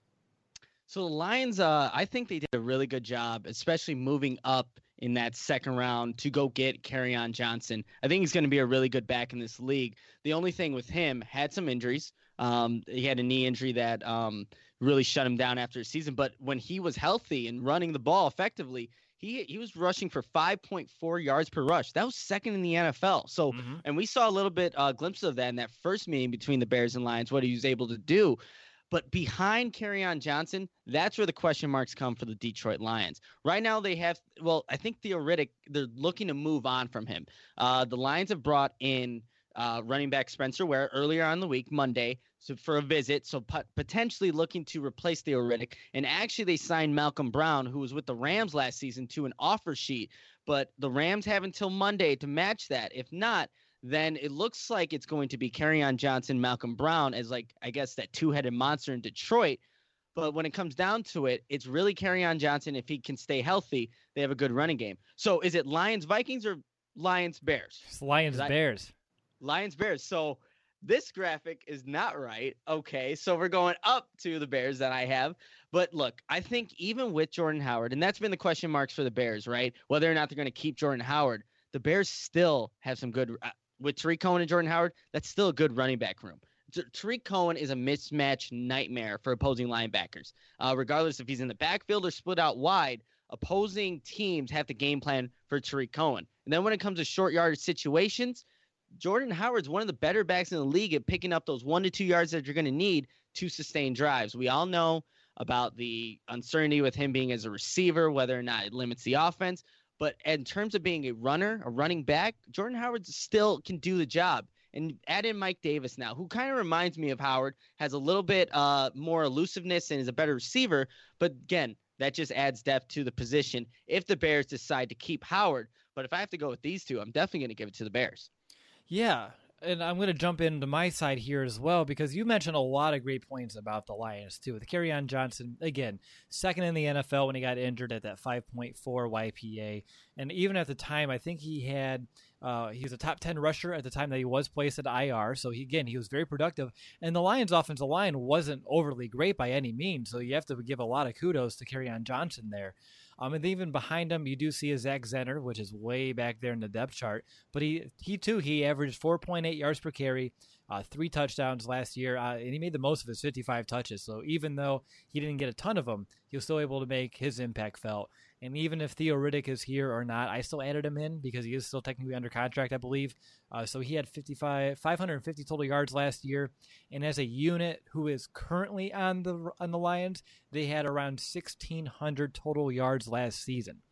So the Lions, uh, I think they did a really good job, especially moving up in that second round to go get Kerryon Johnson. I think he's going to be a really good back in this league. The only thing with him, had some injuries. Um, he had a knee injury that um, really shut him down after a season. But when he was healthy and running the ball effectively, he he was rushing for five point four yards per rush. That was second in the N F L. So, mm-hmm. and we saw a little bit uh, glimpse of that in that first meeting between the Bears and Lions, what he was able to do. But behind Kerryon Johnson, that's where the question marks come for the Detroit Lions. Right now they have, well, I think theoretic, they're looking to move on from him. Uh, the Lions have brought in uh, running back Spencer Ware earlier on the week, Monday, so for a visit, so pot- potentially looking to replace theoretic. And actually they signed Malcolm Brown, who was with the Rams last season, to an offer sheet. But the Rams have until Monday to match that. If not, then it looks like it's going to be Kerryon Johnson, Malcolm Brown as, like, I guess that two-headed monster in Detroit. But when it comes down to it, it's really Kerryon Johnson. If he can stay healthy, they have a good running game. So is it Lions Vikings or Lions Bears? It's Lions Bears. Lions Bears. So this graphic is not right. Okay, so we're going up to the Bears that I have. But look, I think even with Jordan Howard, and that's been the question marks for the Bears, right? Whether or not they're going to keep Jordan Howard, the Bears still have some good uh, – with Tariq Cohen and Jordan Howard, that's still a good running back room. T- Tariq Cohen is a mismatch nightmare for opposing linebackers. Uh, regardless if he's in the backfield or split out wide, opposing teams have to game plan for Tariq Cohen. And then when it comes to short yardage situations, Jordan Howard's one of the better backs in the league at picking up those one to two yards that you're going to need to sustain drives. We all know about the uncertainty with him being as a receiver, whether or not it limits the offense. But in terms of being a runner, a running back, Jordan Howard still can do the job. And add in Mike Davis now, who kind of reminds me of Howard, has a little bit uh, more elusiveness and is a better receiver. But again, that just adds depth to the position if the Bears decide to keep Howard. But if I have to go with these two, I'm definitely going to give it to the Bears. Yeah, and I'm going to jump into my side here as well, because you mentioned a lot of great points about the Lions, too. With Kerryon Johnson, again, second in the N F L when he got injured at that five point four Y P A. And even at the time, I think he had uh, he was a top ten rusher at the time that he was placed at I R. So, he, again, he was very productive. And the Lions' offensive line wasn't overly great by any means. So, you have to give a lot of kudos to Kerryon Johnson there. Um, and even behind him, you do see a Zach Zenner, which is way back there in the depth chart. But he, he too, he averaged four point eight yards per carry, uh, three touchdowns last year, uh, and he made the most of his fifty-five touches. So even though he didn't get a ton of them, he was still able to make his impact felt. And even if Theo Riddick is here or not, I still added him in because he is still technically under contract, I believe. Uh, so he had fifty-five, five hundred fifty total yards last year. And as a unit who is currently on the on the Lions, they had around sixteen hundred total yards last season.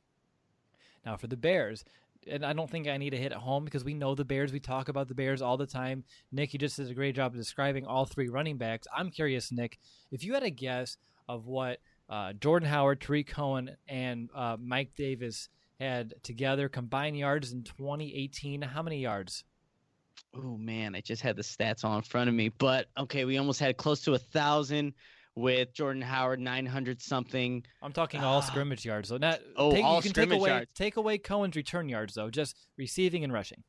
Now for the Bears, and I don't think I need to hit it home because we know the Bears. We talk about the Bears all the time. Nick, you just did a great job of describing all three running backs. I'm curious, Nick, if you had a guess of what Uh, Jordan Howard, Tariq Cohen, and uh, Mike Davis had together combined yards in twenty eighteen. How many yards? Oh, man, I just had the stats all in front of me. But, okay, we almost had close to one thousand with Jordan Howard, nine hundred something. I'm talking all uh, scrimmage yards. So not, oh, take, all you can scrimmage take away, yards. Take away Cohen's return yards, though, just receiving and rushing.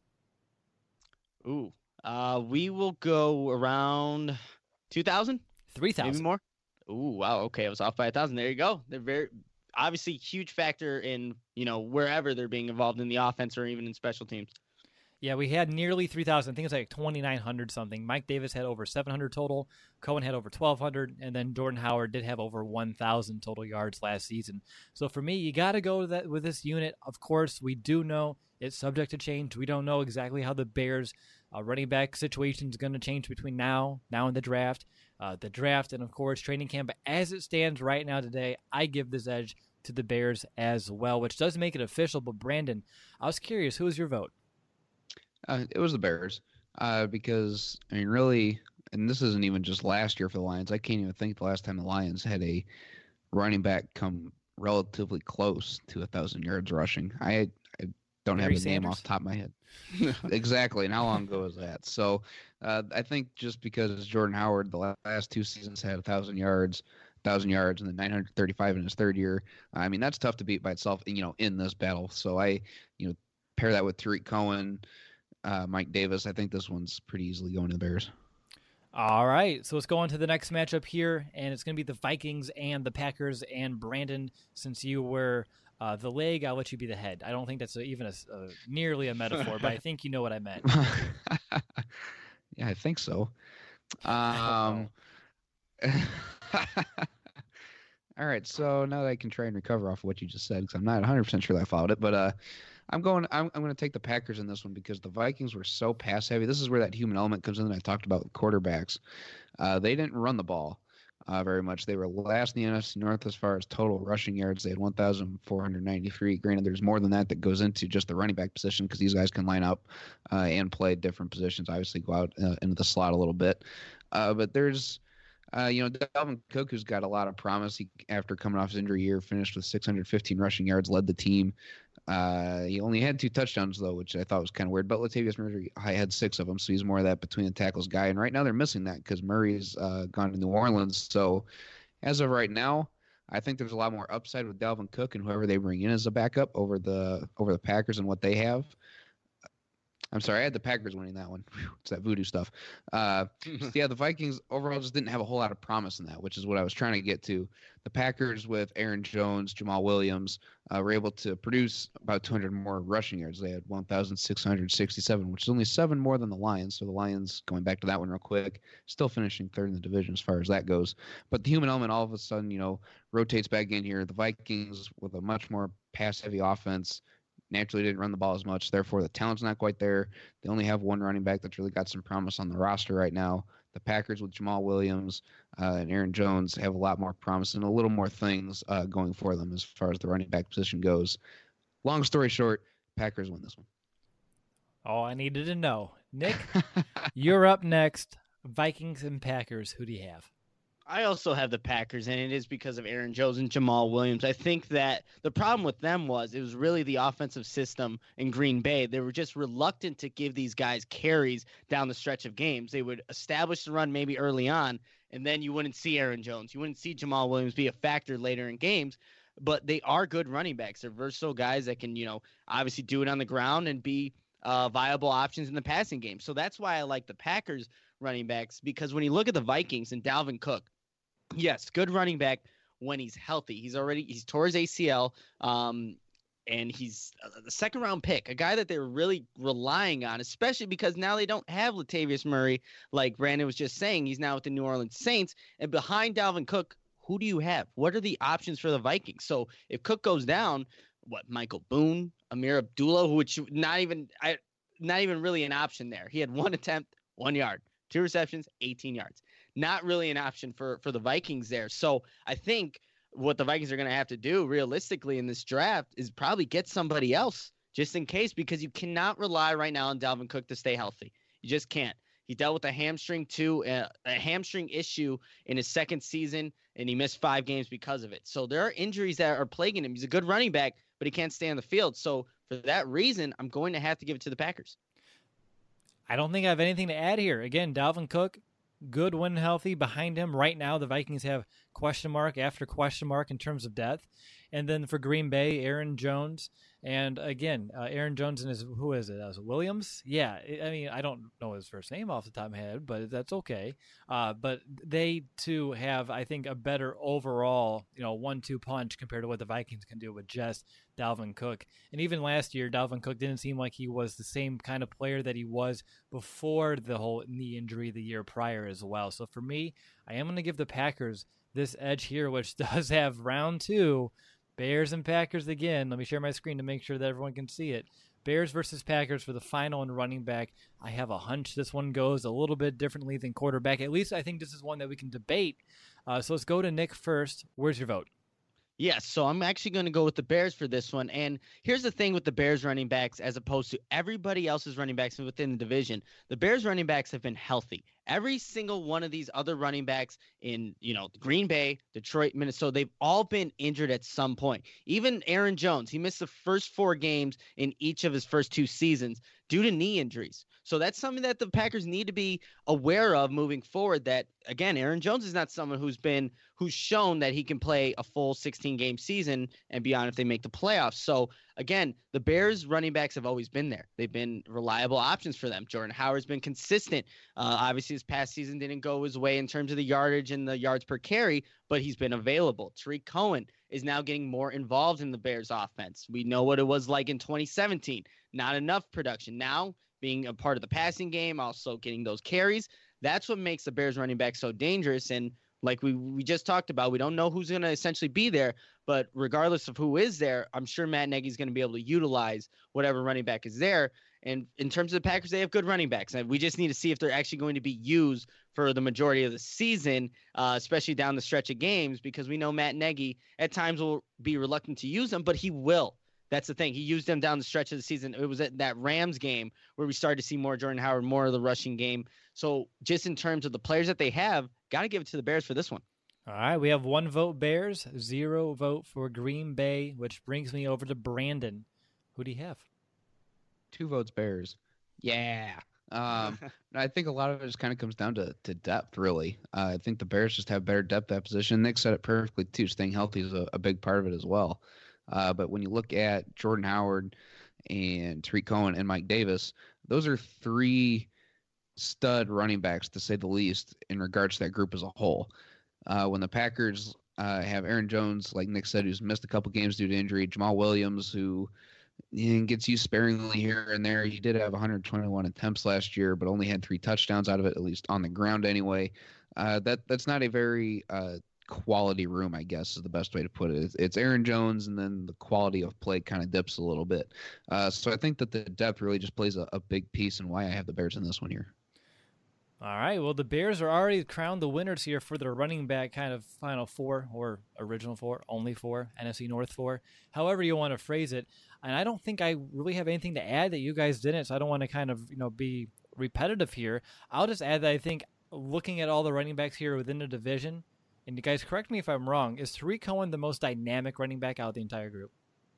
Ooh, uh, we will go around two thousand? three thousand. Maybe more? Ooh, wow. Okay, I was off by a thousand. There you go. They're very obviously huge factor in, you know, wherever they're being involved in the offense or even in special teams. Yeah, we had nearly three thousand. I think it's like twenty-nine hundred something. Mike Davis had over seven hundred total. Cohen had over twelve hundred. And then Jordan Howard did have over one thousand total yards last season. So for me, you got to go that with this unit. Of course, we do know it's subject to change. We don't know exactly how the Bears' uh, running back situation is going to change between now, now and the draft. Uh, the draft and, of course, training camp. But as it stands right now today, I give this edge to the Bears as well, which does make it official. But, Brandon, I was curious, who was your vote? Uh, it was the Bears uh, because, I mean, really, and this isn't even just last year for the Lions. I can't even think the last time the Lions had a running back come relatively close to one thousand yards rushing. I, I don't Barry have a name Sanders? off the top of my head. Exactly, and how long ago was that? So uh, I think just because Jordan Howard the last two seasons had one thousand yards, one thousand yards, and then nine hundred thirty-five in his third year, I mean, that's tough to beat by itself, you know, in this battle. So I, you know, pair that with Tariq Cohen, Uh, Mike Davis. I think this one's pretty easily going to the Bears. All right, so let's go on to the next matchup here, and it's going to be the Vikings and the Packers. And Brandon, since you were uh, the leg, I'll let you be the head. I don't think that's a, even a, a nearly a metaphor, but I think you know what I meant. Yeah, I think so. Um, all right, so now that I can try and recover off of what you just said, because I'm not one hundred percent sure that I followed it, but uh, I'm going. I'm, I'm going to take the Packers in this one because the Vikings were so pass heavy. This is where that human element comes in that I talked about with quarterbacks. Uh, they didn't run the ball uh, very much. They were last in the N F C North as far as total rushing yards. They had one thousand four hundred ninety-three. Granted, there's more than that that goes into just the running back position because these guys can line up uh, and play different positions. Obviously, go out uh, into the slot a little bit, uh, but there's. Uh, you know, Dalvin Cook, who's got a lot of promise. He, after coming off his injury year, finished with six hundred fifteen rushing yards, led the team. Uh, he only had two touchdowns, though, which I thought was kind of weird. But Latavius Murray had six of them, so he's more of that between the tackles guy. And right now they're missing that because Murray's uh, gone to New Orleans. So as of right now, I think there's a lot more upside with Dalvin Cook and whoever they bring in as a backup over the over the Packers and what they have. I'm sorry, I had the Packers winning that one. Whew, it's that voodoo stuff. Uh, so yeah, the Vikings overall just didn't have a whole lot of promise in that, which is what I was trying to get to. The Packers with Aaron Jones, Jamal Williams, uh, were able to produce about two hundred more rushing yards. They had one thousand six hundred sixty-seven, which is only seven more than the Lions. So the Lions, going back to that one real quick, still finishing third in the division as far as that goes. But the human element all of a sudden, you know, rotates back in here. The Vikings with a much more pass-heavy offense naturally didn't run the ball as much. Therefore, the talent's not quite there. They only have one running back that's really got some promise on the roster right now. The Packers with Jamal Williams uh, and Aaron Jones have a lot more promise and a little more things uh, going for them as far as the running back position goes. Long story short, Packers win this one. All I needed to know. Nick, you're up next. Vikings and Packers. Who do you have? I also have the Packers, and it is because of Aaron Jones and Jamal Williams. I think that the problem with them was it was really the offensive system in Green Bay. They were just reluctant to give these guys carries down the stretch of games. They would establish the run maybe early on, and then you wouldn't see Aaron Jones. You wouldn't see Jamal Williams be a factor later in games. But they are good running backs. They're versatile guys that can, you know, obviously do it on the ground and be uh, viable options in the passing game. So that's why I like the Packers running backs, because when you look at the Vikings and Dalvin Cook, yes, good running back when he's healthy. He's already he's tore his A C L, um, and he's the second round pick, a guy that they're really relying on, especially because now they don't have Latavius Murray, like Brandon was just saying. He's now with the New Orleans Saints, and behind Dalvin Cook, who do you have? What are the options for the Vikings? So if Cook goes down, what, Michael Boone, Amir Abdullah, which not even I, not even really an option there. He had one attempt, one yard, two receptions, eighteen yards. Not really an option for, for the Vikings there. So I think what the Vikings are going to have to do realistically in this draft is probably get somebody else just in case, because you cannot rely right now on Dalvin Cook to stay healthy. You just can't. He dealt with a hamstring too, a, a hamstring issue in his second season, and he missed five games because of it. So there are injuries that are plaguing him. He's a good running back, but he can't stay on the field. So for that reason, I'm going to have to give it to the Packers. I don't think I have anything to add here. Again, Dalvin Cook, good when healthy. Behind him right now, the Vikings have question mark after question mark in terms of depth. And then for Green Bay, Aaron Jones. And again, uh, Aaron Jones and his, who is it? Uh, is it Williams? Yeah. I mean, I don't know his first name off the top of my head, but that's okay. Uh, but they too have, I think, a better overall, you know, one two punch compared to what the Vikings can do with just Dalvin Cook. And even last year, Dalvin Cook didn't seem like he was the same kind of player that he was before the whole knee injury the year prior as well. So for me, I am going to give the Packers this edge here, which does have round two. Bears and Packers again. Let me share my screen to make sure that everyone can see it. Bears versus Packers for the final and running back. I have a hunch this one goes a little bit differently than quarterback. At least I think this is one that we can debate. Uh, so let's go to Nick first. Where's your vote? Yes, so I'm actually going to go with the Bears for this one. And here's the thing with the Bears running backs as opposed to everybody else's running backs within the division. The Bears running backs have been healthy. Every single one of these other running backs in, you know, Green Bay, Detroit, Minnesota, they've all been injured at some point. Even Aaron Jones, he missed the first four games in each of his first two seasons due to knee injuries. So that's something that the Packers need to be aware of moving forward, that, again, Aaron Jones is not someone who's been who's shown that he can play a full sixteen-game season and beyond if they make the playoffs. So, again, the Bears running backs have always been there. They've been reliable options for them. Jordan Howard's been consistent. Uh, obviously, his past season didn't go his way in terms of the yardage and the yards per carry, but he's been available. Tariq Cohen is now getting more involved in the Bears offense. We know what it was like in twenty seventeen. Not enough production. Now, being a part of the passing game, also getting those carries, that's what makes the Bears running back so dangerous. And like we, we just talked about, we don't know who's going to essentially be there, but regardless of who is there, I'm sure Matt Nagy's going to be able to utilize whatever running back is there. And in terms of the Packers, they have good running backs. And we just need to see if they're actually going to be used for the majority of the season, uh, especially down the stretch of games, because we know Matt Nagy at times will be reluctant to use them, but he will. That's the thing. He used them down the stretch of the season. It was at that Rams game where we started to see more Jordan Howard, more of the rushing game. So just in terms of the players that they have, got to give it to the Bears for this one. All right, we have one vote Bears, zero vote for Green Bay, which brings me over to Brandon. Who do you have? Two votes Bears. Yeah. Um, I think a lot of it just kind of comes down to, to depth, really. Uh, I think the Bears just have better depth at position. Nick said it perfectly, too. Staying healthy is a, a big part of it as well. Uh, but when you look at Jordan Howard and Tariq Cohen and Mike Davis, those are three stud running backs, to say the least, in regards to that group as a whole. Uh, when the Packers uh, have Aaron Jones, like Nick said, who's missed a couple games due to injury, Jamal Williams, who you know, gets used sparingly here and there. He did have one hundred twenty-one attempts last year, but only had three touchdowns out of it, at least on the ground anyway. Uh, that that's not a very uh, quality room, I guess, is the best way to put it. It's, it's Aaron Jones, and then the quality of play kind of dips a little bit. Uh, so I think that the depth really just plays a, a big piece in why I have the Bears in this one here. All right, well, the Bears are already crowned the winners here for their running back kind of final four, or original four, only four, N F C North four, however you want to phrase it. And I don't think I really have anything to add that you guys didn't, so I don't want to kind of, you know, be repetitive here. I'll just add that I think looking at all the running backs here within the division, and you guys correct me if I'm wrong, is Tariq Cohen the most dynamic running back out of the entire group?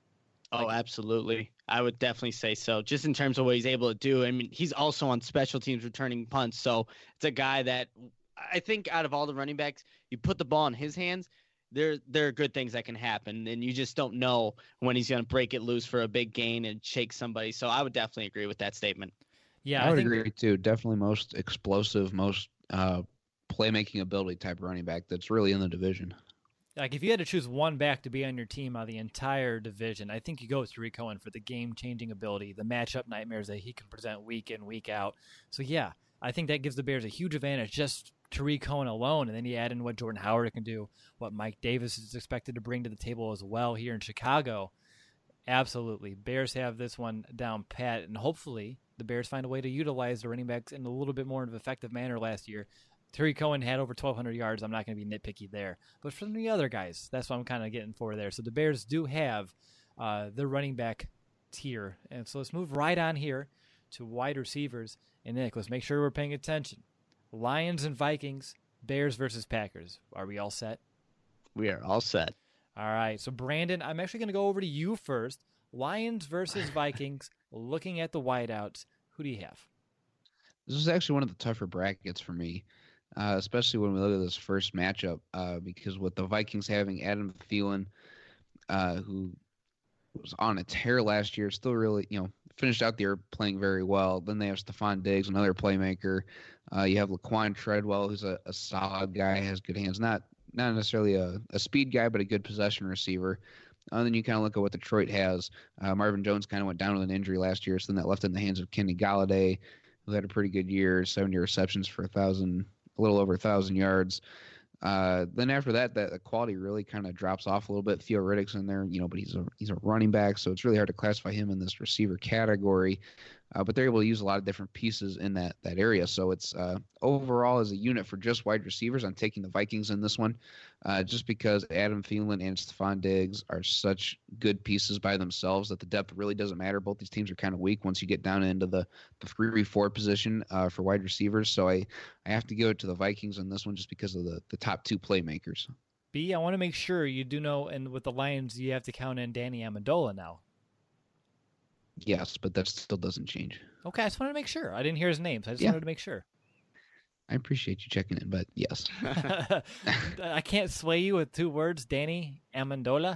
Oh, absolutely. I would definitely say so, just in terms of what he's able to do. I mean, he's also on special teams returning punts, so it's a guy that I think out of all the running backs, you put the ball in his hands, there there are good things that can happen, and you just don't know when he's going to break it loose for a big gain and shake somebody. So I would definitely agree with that statement. Yeah, I would I think, agree too. Definitely most explosive, most uh, playmaking ability type running back that's really in the division. like if you had to choose one back to be on your team out of the entire division, I think you go with Tariq Cohen for the game-changing ability, the matchup nightmares that he can present week in, week out. So yeah, I think that gives the Bears a huge advantage, just Tariq Cohen alone, and then you add in what Jordan Howard can do, what Mike Davis is expected to bring to the table as well here in Chicago. Absolutely. Bears have this one down pat, and hopefully the Bears find a way to utilize the running backs in a little bit more of an effective manner last year. Tariq Cohen had over twelve hundred yards. I'm not going to be nitpicky there. But from the other guys, that's what I'm kind of getting for there. So the Bears do have uh, the running back tier. And so let's move right on here to wide receivers. And Nick, let's make sure we're paying attention. Lions and Vikings, Bears versus Packers. Are we all set? We are all set. All right. So, Brandon, I'm actually going to go over to you first. Lions versus Vikings, looking at the wideouts. Who do you have? This is actually one of the tougher brackets for me. uh, especially when we look at this first matchup, uh, because with the Vikings having Adam Thielen, uh, who was on a tear last year, still really, you know, finished out the year playing very well. Then they have Stephon Diggs, another playmaker. Uh, you have Laquan Treadwell, who's a, a solid guy, has good hands. Not not necessarily a, a speed guy, but a good possession receiver. And uh, then you kind of look at what Detroit has. Uh, Marvin Jones kind of went down with an injury last year, so then that left in the hands of Kenny Galladay, who had a pretty good year, seventy receptions for a thousand, a little over a thousand yards. Uh, then after that, that the quality really kind of drops off a little bit. Theo Riddick's in there, you know, but he's a he's a running back, so it's really hard to classify him in this receiver category. Uh, but they're able to use a lot of different pieces in that that area. So it's uh, overall as a unit for just wide receivers, I'm taking the Vikings in this one, uh, just because Adam Thielen and Stephon Diggs are such good pieces by themselves that the depth really doesn't matter. Both these teams are kind of weak once you get down into the the three four position uh, for wide receivers. So I, I have to give it to the Vikings in this one just because of the, the top two playmakers. B, I want to make sure you do know, and with the Lions, you have to count in Danny Amendola now. Yes, but that still doesn't change. Okay, I just wanted to make sure. I didn't hear his name, so I just Yeah. wanted to make sure. I appreciate you checking in, but yes. I can't sway you with two words, Danny Amendola.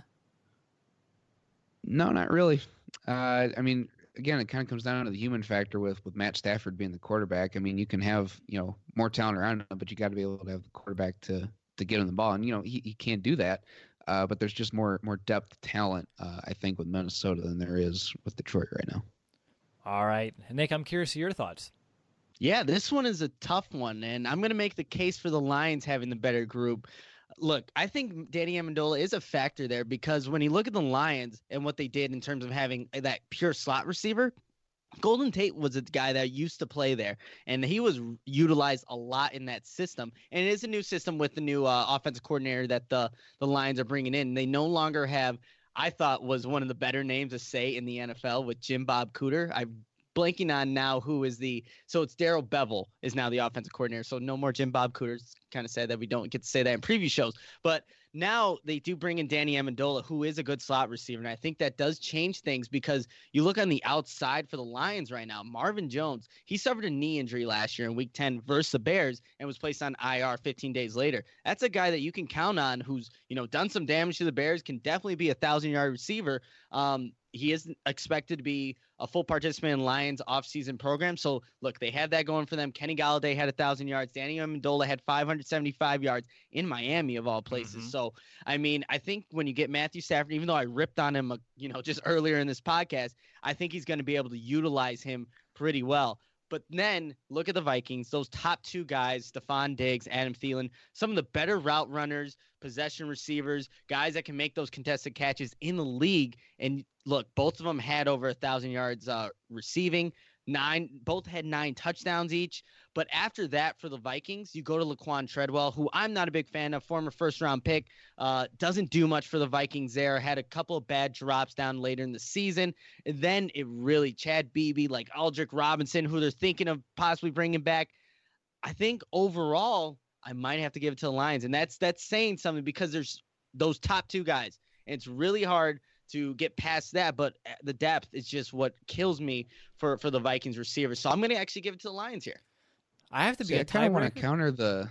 No, not really. Uh, I mean, again, it kind of comes down to the human factor with, with Matt Stafford being the quarterback. I mean, you can have, you know, more talent around him, but you got to be able to have the quarterback to, to get him the ball. And, you know, he, he can't do that. Uh, but there's just more more depth talent, uh, I think, with Minnesota than there is with Detroit right now. All right. Nick, I'm curious of your thoughts. Yeah, this one is a tough one, and I'm going to make the case for the Lions having the better group. Look, I think Danny Amendola is a factor there because when you look at the Lions and what they did in terms of having that pure slot receiver, Golden Tate was a guy that used to play there, and he was utilized a lot in that system. And it is a new system with the new uh, offensive coordinator that the, the Lions are bringing in. They no longer have, I thought, was one of the better names to say in the N F L with Jim Bob Cooter. I'm blanking on now who is the – so it's Darrell Bevell is now the offensive coordinator. So no more Jim Bob Cooter. It's kind of sad that we don't get to say that in previous shows. But now they do bring in Danny Amendola, who is a good slot receiver. And I think that does change things because you look on the outside for the Lions right now. Marvin Jones, he suffered a knee injury last year in week ten versus the Bears and was placed on I R fifteen days later. That's a guy that you can count on who's, you know, done some damage to the Bears, can definitely be a thousand-yard receiver. Um, he is expected to be a full participant in Lions offseason program. So, look, they had that going for them. Kenny Galladay had one thousand yards. Danny Amendola had five hundred seventy-five yards in Miami, of all places. Mm-hmm. So, I mean, I think when you get Matthew Stafford, even though I ripped on him, uh, you know, just earlier in this podcast, I think he's going to be able to utilize him pretty well. But then look at the Vikings, those top two guys, Stephon Diggs, Adam Thielen, some of the better route runners, possession receivers, guys that can make those contested catches in the league. And look, both of them had over a thousand yards uh, receiving. Nine, both had nine touchdowns each. But after that, for the Vikings, you go to Laquan Treadwell, who I'm not a big fan of, former first-round pick. Uh, doesn't do much for the Vikings there. Had a couple of bad drops down later in the season. And then it really, Chad Beebe, like Aldrick Robinson, who they're thinking of possibly bringing back. I think overall, I might have to give it to the Lions. And that's that's saying something because there's those top two guys. And it's really hard to get past that, but the depth is just what kills me for, for the Vikings receivers. So I'm going to actually give it to the Lions here. I have to be See, a I kind of want tiebreaker. to counter the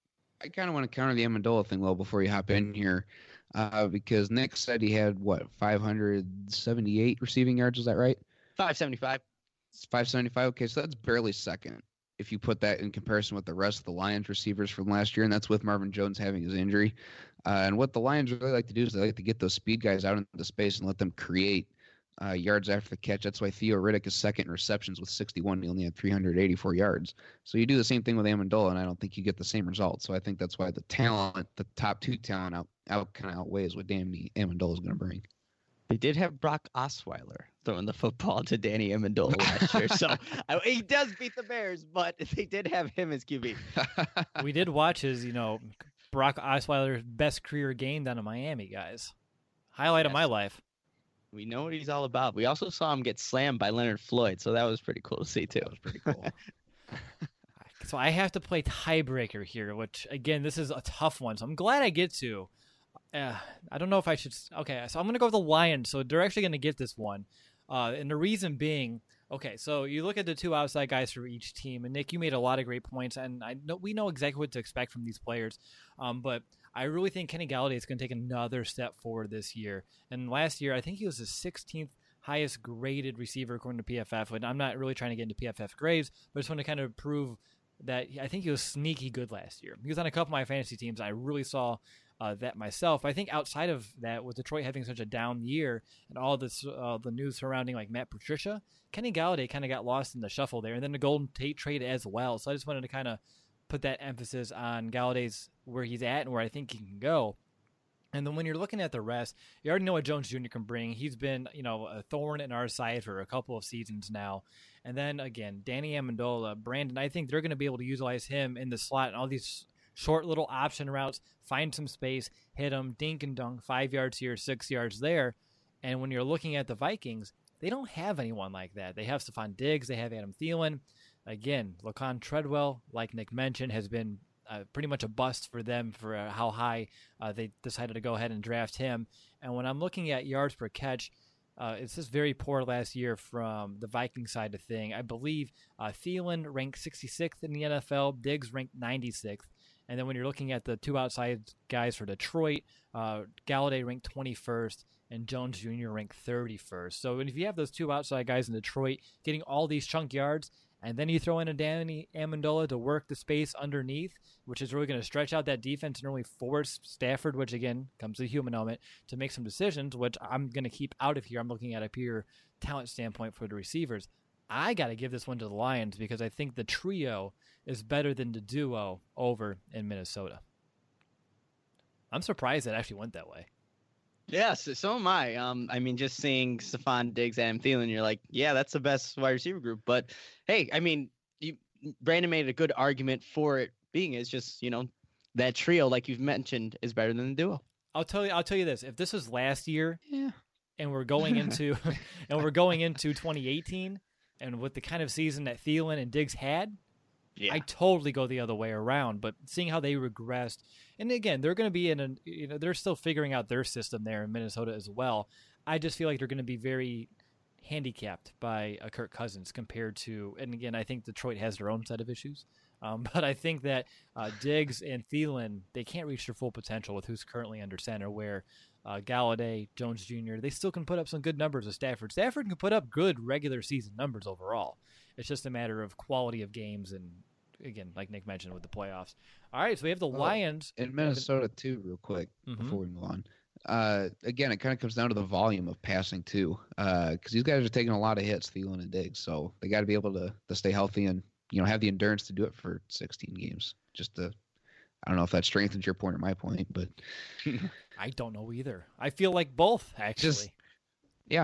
I kind of want to counter the Amendola thing, though, before you hop in here, uh, because Nick said he had, what, five hundred seventy-eight receiving yards, is that right? five seventy-five. It's five seventy-five. Okay, so that's barely second if you put that in comparison with the rest of the Lions receivers from last year, and that's with Marvin Jones having his injury. Uh, and what the Lions really like to do is they like to get those speed guys out into space and let them create uh, yards after the catch. That's why Theo Riddick is second in receptions with sixty-one. He only had three hundred eighty-four yards. So you do the same thing with Amendola, and I don't think you get the same result. So I think that's why the talent, the top two talent out, out kind of outweighs what Danny Amendola is going to bring. They did have Brock Osweiler throwing the football to Danny Amendola last year. So I, he does beat the Bears, but they did have him as Q B. We did watch his, you know, Brock Osweiler's best career game down in Miami, guys. Highlight yes. of my life. We know what he's all about. We also saw him get slammed by Leonard Floyd, so that was pretty cool to see, too. That was pretty cool. So I have to play tiebreaker here, which, again, this is a tough one. So I'm glad I get to. Uh, I don't know if I should. Okay, so I'm going to go with the Lions. So they're actually going to get this one. Uh, and the reason being, Okay, so you look at the two outside guys for each team, and Nick, you made a lot of great points, and I know we know exactly what to expect from these players. Um, but I really think Kenny Galladay is going to take another step forward this year. And last year, I think he was the sixteenth highest graded receiver according to P F F. And I'm not really trying to get into P F F grades, but I just want to kind of prove that I think he was sneaky good last year. He was on a couple of my fantasy teams. I really saw uh, that myself. I think outside of that, with Detroit having such a down year and all this uh, the news surrounding like Matt Patricia, Kenny Galladay kind of got lost in the shuffle there, and then the Golden Tate trade as well. So I just wanted to kind of put that emphasis on Galladay's where he's at and where I think he can go. And then when you're looking at the rest, you already know what Jones Junior can bring. He's been, you know, a thorn in our side for a couple of seasons now. And then again, Danny Amendola, Brandon, I think they're going to be able to utilize him in the slot and all these short little option routes, find some space, hit him, dink and dunk, five yards here, six yards there. And when you're looking at the Vikings, they don't have anyone like that. They have Stephon Diggs, they have Adam Thielen. Again, Laquan Treadwell, like Nick mentioned, has been uh, pretty much a bust for them for uh, how high uh, they decided to go ahead and draft him. And when I'm looking at yards per catch, uh, it's just very poor last year from the Viking side of thing. I believe uh, Thielen ranked sixty-sixth in the N F L, Diggs ranked ninety-sixth. And then when you're looking at the two outside guys for Detroit, uh, Galladay ranked twenty-first and Jones Junior ranked thirty-first. So if you have those two outside guys in Detroit getting all these chunk yards, and then you throw in a Danny Amendola to work the space underneath, which is really going to stretch out that defense and really force Stafford, which again comes to the human element, to make some decisions, which I'm going to keep out of here. I'm looking at a pure talent standpoint for the receivers. I got to give this one to the Lions because I think the trio is better than the duo over in Minnesota. I'm surprised it actually went that way. Yes, so am I. Um, I mean, just seeing Stephon Diggs, Adam Thielen, you're like, yeah, that's the best wide receiver group. But hey, I mean, you, Brandon made a good argument for it being is just, you know, that trio, like you've mentioned, is better than the duo. I'll tell you. I'll tell you this: if this was last year, Yeah. and we're going into and we're going into twenty eighteen, and with the kind of season that Thielen and Diggs had, Yeah. I totally go the other way around. But seeing how they regressed, and again, they're going to be in a, you know, they're still figuring out their system there in Minnesota as well. I just feel like they're going to be very handicapped by a Kirk Cousins compared to, and again, I think Detroit has their own set of issues. Um, but I think that uh, Diggs and Thielen, they can't reach their full potential with who's currently under center, where uh, Galladay, Jones Junior, they still can put up some good numbers with Stafford. Stafford can put up good regular season numbers overall. It's just a matter of quality of games and, again, like Nick mentioned with the playoffs. All right, so we have the Well, Lions. In Minnesota, too, real quick, Mhm. before we move on. Uh, again, it kind of comes down to the volume of passing, too, because these guys are taking a lot of hits, Thielen and Diggs, so they got to be able to, to stay healthy and, you know, have the endurance to do it for sixteen games. Just to, I don't know if that strengthens your point or my point, but I don't know either. I feel like both, actually. Just- yeah.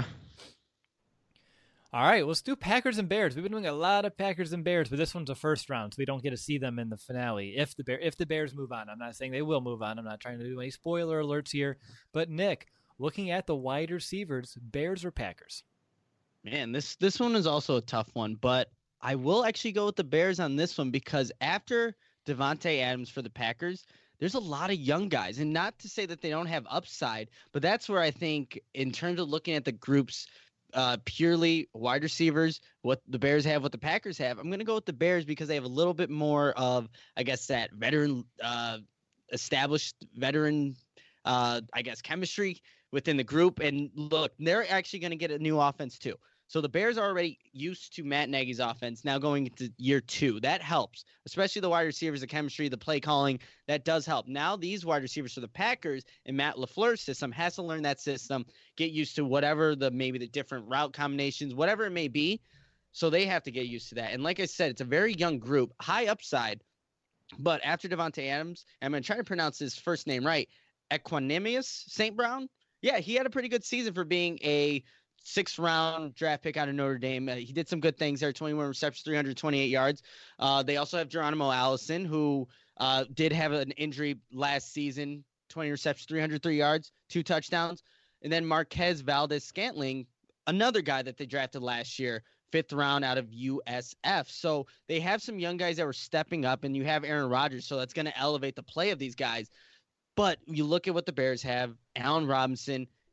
All right, let's do Packers and Bears. We've been doing a lot of Packers and Bears, but this one's a first round, so we don't get to see them in the finale. If the Bear, if the Bears move on, I'm not saying they will move on. I'm not trying to do any spoiler alerts here. But Nick, looking at the wide receivers, Bears or Packers? Man, this this one is also a tough one, but I will actually go with the Bears on this one because after Devontae Adams for the Packers, there's a lot of young guys. And not to say that they don't have upside, but that's where I think in terms of looking at the groups uh, purely wide receivers, what the Bears have, what the Packers have, I'm going to go with the Bears because they have a little bit more of, I guess, that veteran, uh, established veteran, uh, I guess, chemistry within the group. And look, they're actually going to get a new offense too. So the Bears are already used to Matt Nagy's offense. Now going into year two, that helps, especially the wide receivers, the chemistry, the play calling. That does help. Now these wide receivers for the Packers and Matt LaFleur's system has to learn that system, get used to whatever the maybe the different route combinations, whatever it may be. So they have to get used to that. And like I said, it's a very young group, high upside. But after Devontae Adams, I'm going to try to pronounce his first name right, Equanimous Saint Brown. Yeah, he had a pretty good season for being a sixth round draft pick out of Notre Dame. Uh, he did some good things there, twenty-one receptions, three hundred twenty-eight yards. Uh, they also have Geronimo Allison, who uh, did have an injury last season, twenty receptions, three hundred three yards, two touchdowns. And then Marquez Valdez-Scantling, another guy that they drafted last year, fifth round out of U S F. So they have some young guys that were stepping up, and you have Aaron Rodgers, so that's going to elevate the play of these guys. But you look at what the Bears have, Allen Robinson,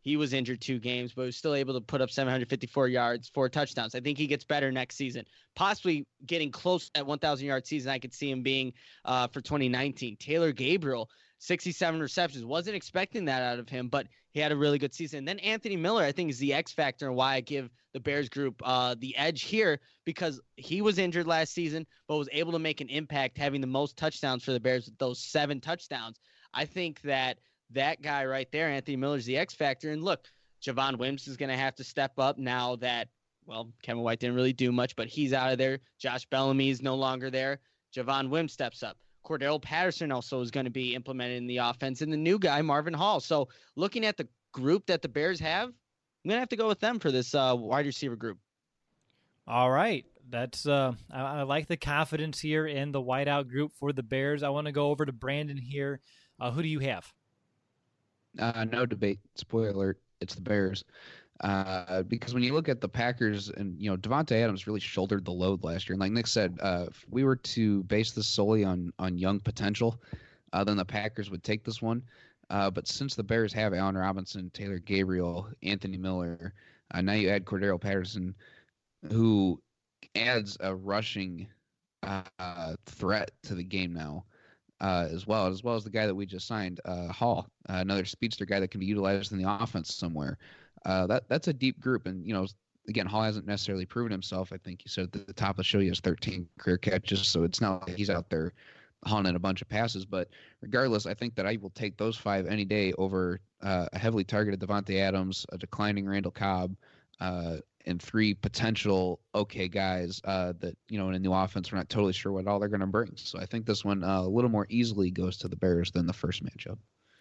He was injured two games, but was still able to put up seven hundred fifty-four yards, four touchdowns. I think he gets better next season, possibly getting close to that one thousand yard season. I could see him being uh, for twenty nineteen. Taylor Gabriel, sixty-seven receptions. Wasn't expecting that out of him, but he had a really good season. And then Anthony Miller, I think, is the X factor and why I give the Bears group uh, the edge here, because he was injured last season, but was able to make an impact, having the most touchdowns for the Bears with those seven touchdowns. I think that that guy right there, Anthony Miller, is the X factor. And look, Javon Wims is going to have to step up now that, well, Kevin White didn't really do much, but he's out of there. Josh Bellamy is no longer there. Javon Wims steps up. Cordell Patterson also is going to be implemented in the offense, and the new guy, Marvin Hall. So looking at the group that the Bears have, I'm going to have to go with them for this uh, wide receiver group. All right. That's uh, I, I like the confidence here in the wideout group for the Bears. I want to go over to Brandon here. Uh, who do you have? Uh, no debate. Spoiler alert. It's the Bears. Uh, because when you look at the Packers and, you know, Devontae Adams really shouldered the load last year. And like Nick said, uh, if we were to base this solely on, on young potential, uh, then the Packers would take this one. Uh, but since the Bears have Allen Robinson, Taylor Gabriel, Anthony Miller, uh, now you add Cordero Patterson, who adds a rushing uh, threat to the game now. Uh, as well as well as the guy that we just signed, uh, Hall, uh, another speedster guy that can be utilized in the offense somewhere. Uh, that that's a deep group, and you know, again, Hall hasn't necessarily proven himself. I think you said at the top of the show he has thirteen career catches, so it's not like he's out there hauling in a bunch of passes. But regardless, I think that I will take those five any day over uh, a heavily targeted Devontae Adams, a declining Randall Cobb, uh, and three potential okay guys uh, that, you know, in a new offense, we're not totally sure what all they're going to bring. So I think this one uh, a little more easily goes to the Bears than the first matchup.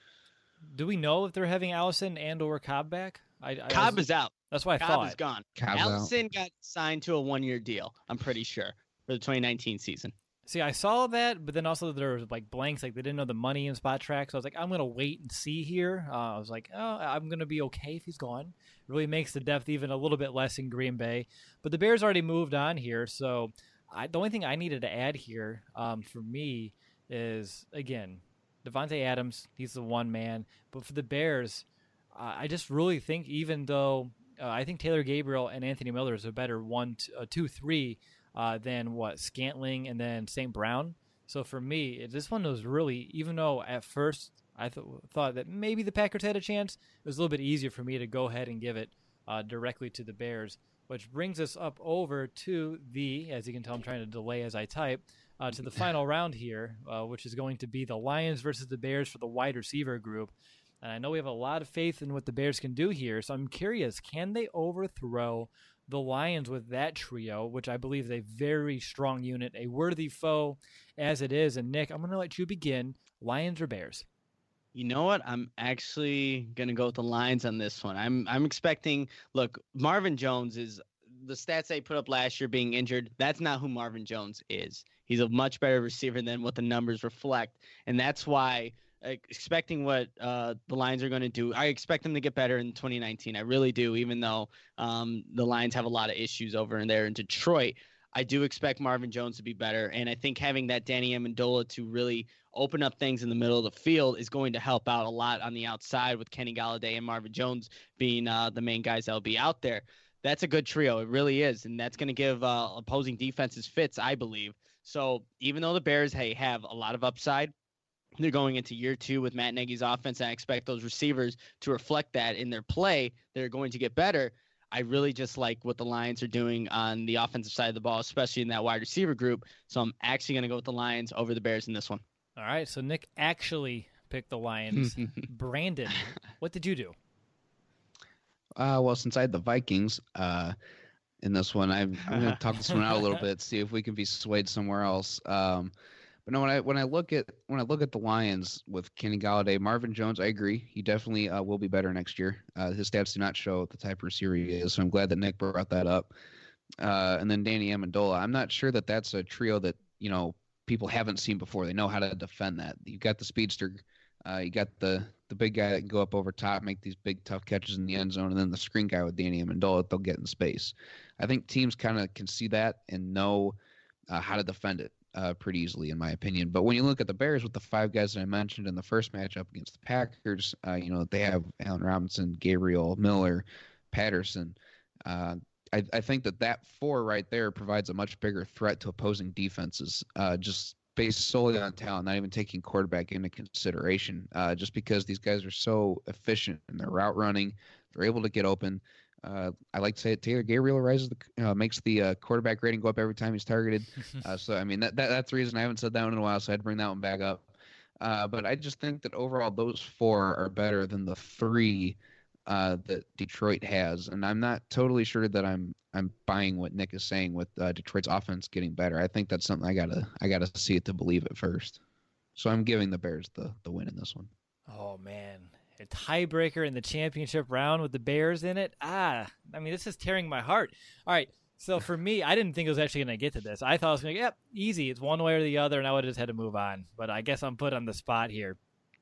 Do we know if they're having Allison and or Cobb back? I, I Cobb was, is out. That's why I Cobb thought. is gone. Cobb's Allison out. got signed to a one-year deal, I'm pretty sure, for the twenty nineteen season. See, I saw that, but then also there was like blanks, like they didn't know the money in Spot Track. So I was like, I'm gonna wait and see here. Uh, I was like, oh, I'm gonna be okay if he's gone. It really makes the depth even a little bit less in Green Bay. But the Bears already moved on here, so I, the only thing I needed to add here um, for me is again, Devontae Adams. He's the one man, but for the Bears, uh, I just really think even though uh, I think Taylor Gabriel and Anthony Miller is a better one, t- uh, two, three. Uh, than what Scantling and then Saint Brown. So for me, this one was really, even though at first I th- thought that maybe the Packers had a chance, it was a little bit easier for me to go ahead and give it uh, directly to the Bears, which brings us up over to the, as you can tell, I'm trying to delay as I type, uh, to the final round here, uh, which is going to be the Lions versus the Bears for the wide receiver group. And I know we have a lot of faith in what the Bears can do here, so I'm curious, can they overthrow the Lions with that trio, which I believe is a very strong unit, a worthy foe as it is? And Nick, I'm going to let you begin. Lions or Bears? You know what? I'm actually going to go with the Lions on this one. I'm I'm expecting, look, Marvin Jones is, the stats they put up last year being injured, that's not who Marvin Jones is. He's a much better receiver than what the numbers reflect. And that's why expecting what uh, the Lions are going to do, I expect them to get better in twenty nineteen. I really do, even though um, the Lions have a lot of issues over in there in Detroit. I do expect Marvin Jones to be better, and I think having that Danny Amendola to really open up things in the middle of the field is going to help out a lot on the outside with Kenny Golladay and Marvin Jones being uh, the main guys that will be out there. That's a good trio. It really is, and that's going to give uh, opposing defenses fits, I believe. So even though the Bears, hey, have a lot of upside, they're going into year two with Matt Nagy's offense, and I expect those receivers to reflect that in their play. They're going to get better. I really just like what the Lions are doing on the offensive side of the ball, especially in that wide receiver group. So I'm actually going to go with the Lions over the Bears in this one. All right, so Nick actually picked the Lions. Brandon, what did you do? Uh, well, since I had the Vikings uh, in this one, I'm, I'm going to talk this one out a little bit, see if we can be swayed somewhere else. Um, But no, when I when I look at when I look at the Lions with Kenny Golladay, Marvin Jones, I agree. He definitely uh, will be better next year. Uh, his stats do not show the type of receiver he is, so I'm glad that Nick brought that up. Uh, and then Danny Amendola, I'm not sure that that's a trio that, you know, people haven't seen before. They know how to defend that. You've got the speedster, uh, you got the the big guy that can go up over top, make these big tough catches in the end zone, and then the screen guy with Danny Amendola that they'll get in space. I think teams kind of can see that and know uh, how to defend it. uh, pretty easily, in my opinion. But when you look at the Bears with the five guys that I mentioned in the first matchup against the Packers, uh, you know, they have Allen Robinson, Gabriel, Miller, Patterson. Uh, I, I think that that four right there provides a much bigger threat to opposing defenses, uh, just based solely on talent, not even taking quarterback into consideration, uh, just because these guys are so efficient in their route running. They're able to get open. Uh, I like to say it, Taylor Gabriel rises the, uh, makes the uh, quarterback rating go up every time he's targeted. Uh, so, I mean, that, that that's the reason I haven't said that one in a while, so I had to bring that one back up. Uh, but I just think that overall those four are better than the three uh, that Detroit has. And I'm not totally sure that I'm I'm buying what Nick is saying with uh, Detroit's offense getting better. I think that's something I gotta I gotta see it to believe it first. So I'm giving the Bears the the win in this one. Oh man, a tiebreaker in the championship round with the Bears in it. Ah, I mean, this is tearing my heart. All right, so for me, I didn't think it was actually going to get to this. I thought it was going to, yep, easy. It's one way or the other, and I would have just had to move on. But I guess I'm put on the spot here.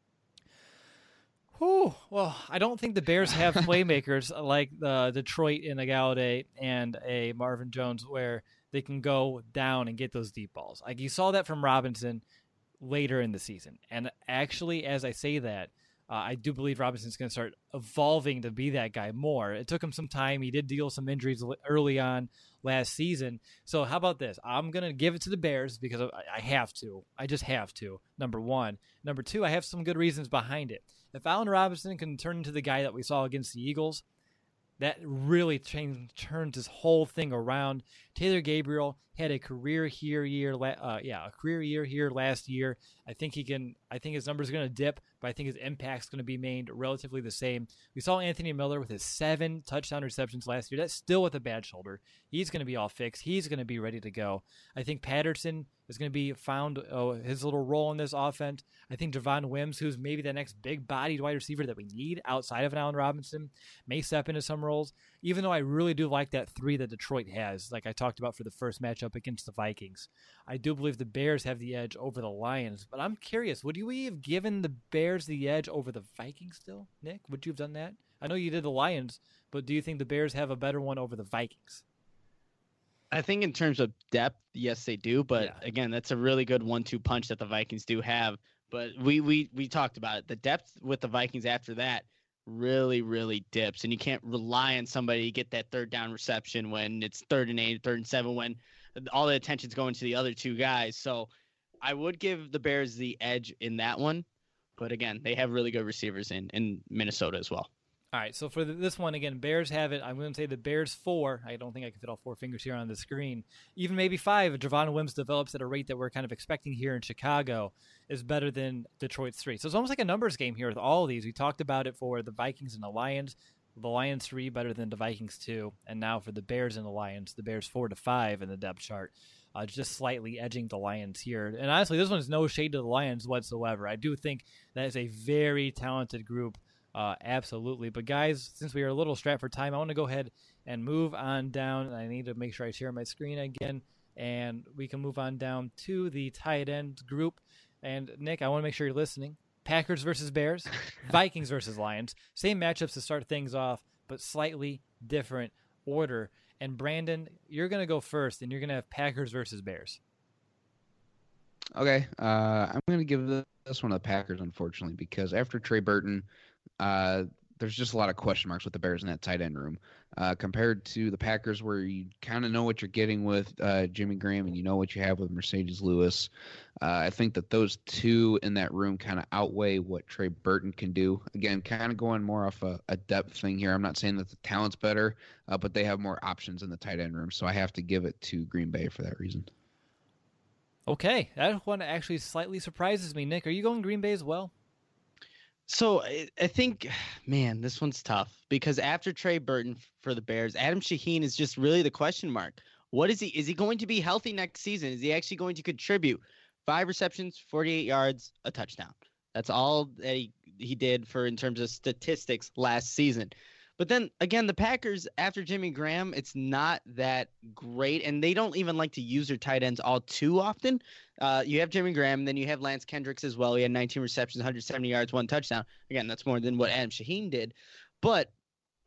Whew. Well, I don't think the Bears have playmakers like the Detroit in a Galladay and a Marvin Jones where they can go down and get those deep balls. Like you saw that from Robinson later in the season. And actually, as I say that, uh, I do believe Robinson's going to start evolving to be that guy more. It took him some time. He did deal with some injuries early on last season. So how about this? I'm going to give it to the Bears because I have to. I just have to, number one. Number two, I have some good reasons behind it. If Allen Robinson can turn into the guy that we saw against the Eagles, that really changed, turned his whole thing around. Taylor Gabriel had a career here year, uh, yeah, a career year here last year. I think he can. I think his numbers are going to dip, but I think his impact's going to be maintained relatively the same. We saw Anthony Miller with his seven touchdown receptions last year. That's still with a bad shoulder. He's going to be all fixed. He's going to be ready to go. I think Patterson is going to be found oh, his little role in this offense. I think Javon Wims, who's maybe the next big-bodied wide receiver that we need outside of an Allen Robinson, may step into some roles, even though I really do like that three that Detroit has, like I talked about for the first matchup against the Vikings. I do believe the Bears have the edge over the Lions, but I'm curious, would you have given the Bears the edge over the Vikings still, Nick? Would you have done that? I know you did the Lions, but do you think the Bears have a better one over the Vikings? I think in terms of depth, yes, they do. But Yeah. again, that's a really good one two punch that the Vikings do have. But we, we, we talked about it. The depth with the Vikings after that really, really dips. And you can't rely on somebody to get that third down reception when it's third and eight, third and seven, when all the attention's going to the other two guys. So I would give the Bears the edge in that one. But again, they have really good receivers in, in Minnesota as well. All right, so for the, this one, again, Bears have it. I'm going to say the Bears four. I don't think I can fit all four fingers here on the screen. Even maybe five, if Javon Wims develops at a rate that we're kind of expecting here in Chicago, is better than Detroit's three. So it's almost like a numbers game here with all of these. We talked about it for the Vikings and the Lions. The Lions three better than the Vikings two. And now for the Bears and the Lions, the Bears four to five in the depth chart. Uh, just slightly edging the Lions here. And honestly, this one is no shade to the Lions whatsoever. I do think that is a very talented group. Uh, absolutely. But guys, since we are a little strapped for time, I want to go ahead and move on down. I need to make sure I share my screen again, and we can move on down to the tight end group. And Nick, I want to make sure you're listening. Packers versus Bears, Vikings versus Lions. Same matchups to start things off, but slightly different order. And Brandon, you're going to go first, and you're going to have Packers versus Bears. Okay, uh, I'm going to give this one to the Packers, unfortunately, because after Trey Burton, uh, there's just a lot of question marks with the Bears in that tight end room uh, compared to the Packers, where you kind of know what you're getting with uh, Jimmy Graham and you know what you have with Mercedes Lewis. Uh, I think that those two in that room kind of outweigh what Trey Burton can do. Again, kind of going more off a, a depth thing here. I'm not saying that the talent's better, uh, but they have more options in the tight end room, so I have to give it to Green Bay for that reason. Okay, that one actually slightly surprises me. Nick, are you going Green Bay as well? So I, I think, man, this one's tough because after Trey Burton for the Bears, Adam Shaheen is just really the question mark. What is he? Is he going to be healthy next season? Is he actually going to contribute? Five receptions, forty-eight yards, a touchdown. That's all that he, he did for in terms of statistics last season. But then again, the Packers after Jimmy Graham, it's not that great, and they don't even like to use their tight ends all too often. Uh, you have Jimmy Graham, then you have Lance Kendricks as well. He had nineteen receptions, one hundred seventy yards, one touchdown. Again, that's more than what Adam Shaheen did. But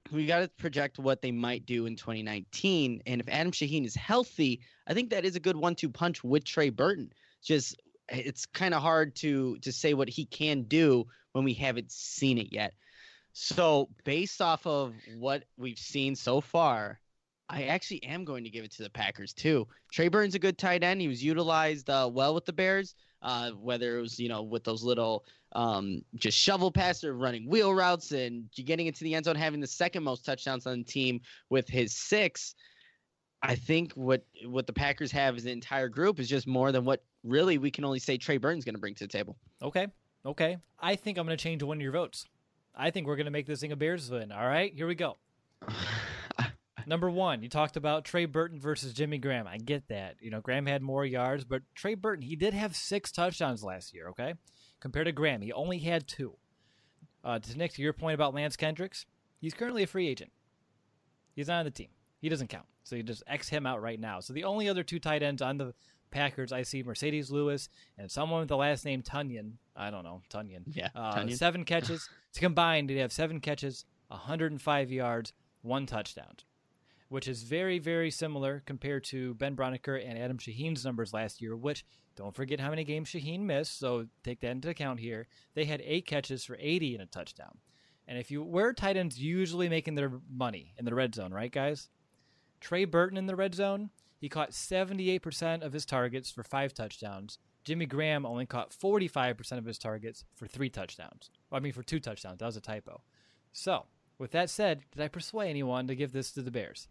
we got to project what they might do in twenty nineteen. And if Adam Shaheen is healthy, I think that is a good one two punch with Trey Burton. Just it's kind of hard to to say what he can do when we haven't seen it yet. So based off of what we've seen so far, I actually am going to give it to the Packers too. Trey Burton's a good tight end. He was utilized uh, well with the Bears, uh, whether it was, you know, with those little um, just shovel passes or running wheel routes and getting into the end zone, having the second most touchdowns on the team with his six. I think what what the Packers have as an entire group is just more than what really we can only say Trey Burton's going to bring to the table. Okay. Okay. I think I'm going to change one of your votes. I think we're going to make this thing a Bears win. All right, here we go. Number one, you talked about Trey Burton versus Jimmy Graham. I get that. You know, Graham had more yards, but Trey Burton, he did have six touchdowns last year, okay? Compared to Graham, he only had two. Uh, to Nick, to your point about Lance Kendricks, he's currently a free agent. He's not on the team. He doesn't count. So you just X him out right now. So the only other two tight ends on the Packers, I see Mercedes Lewis and someone with the last name Tunyon. I don't know, Tunyon. Yeah, uh, Tunyon. Seven catches. To combine, they have seven catches, one hundred five yards, one touchdown, which is very, very similar compared to Ben Broniker and Adam Shaheen's numbers last year, which don't forget how many games Shaheen missed, so take that into account here. They had eight catches for eighty and a touchdown. And if you where tight ends usually making their money in the red zone, right, guys? Trey Burton in the red zone, he caught seventy-eight percent of his targets for five touchdowns. Jimmy Graham only caught forty-five percent of his targets for three touchdowns. Well, I mean, for two touchdowns. That was a typo. So, with that said, did I persuade anyone to give this to the Bears?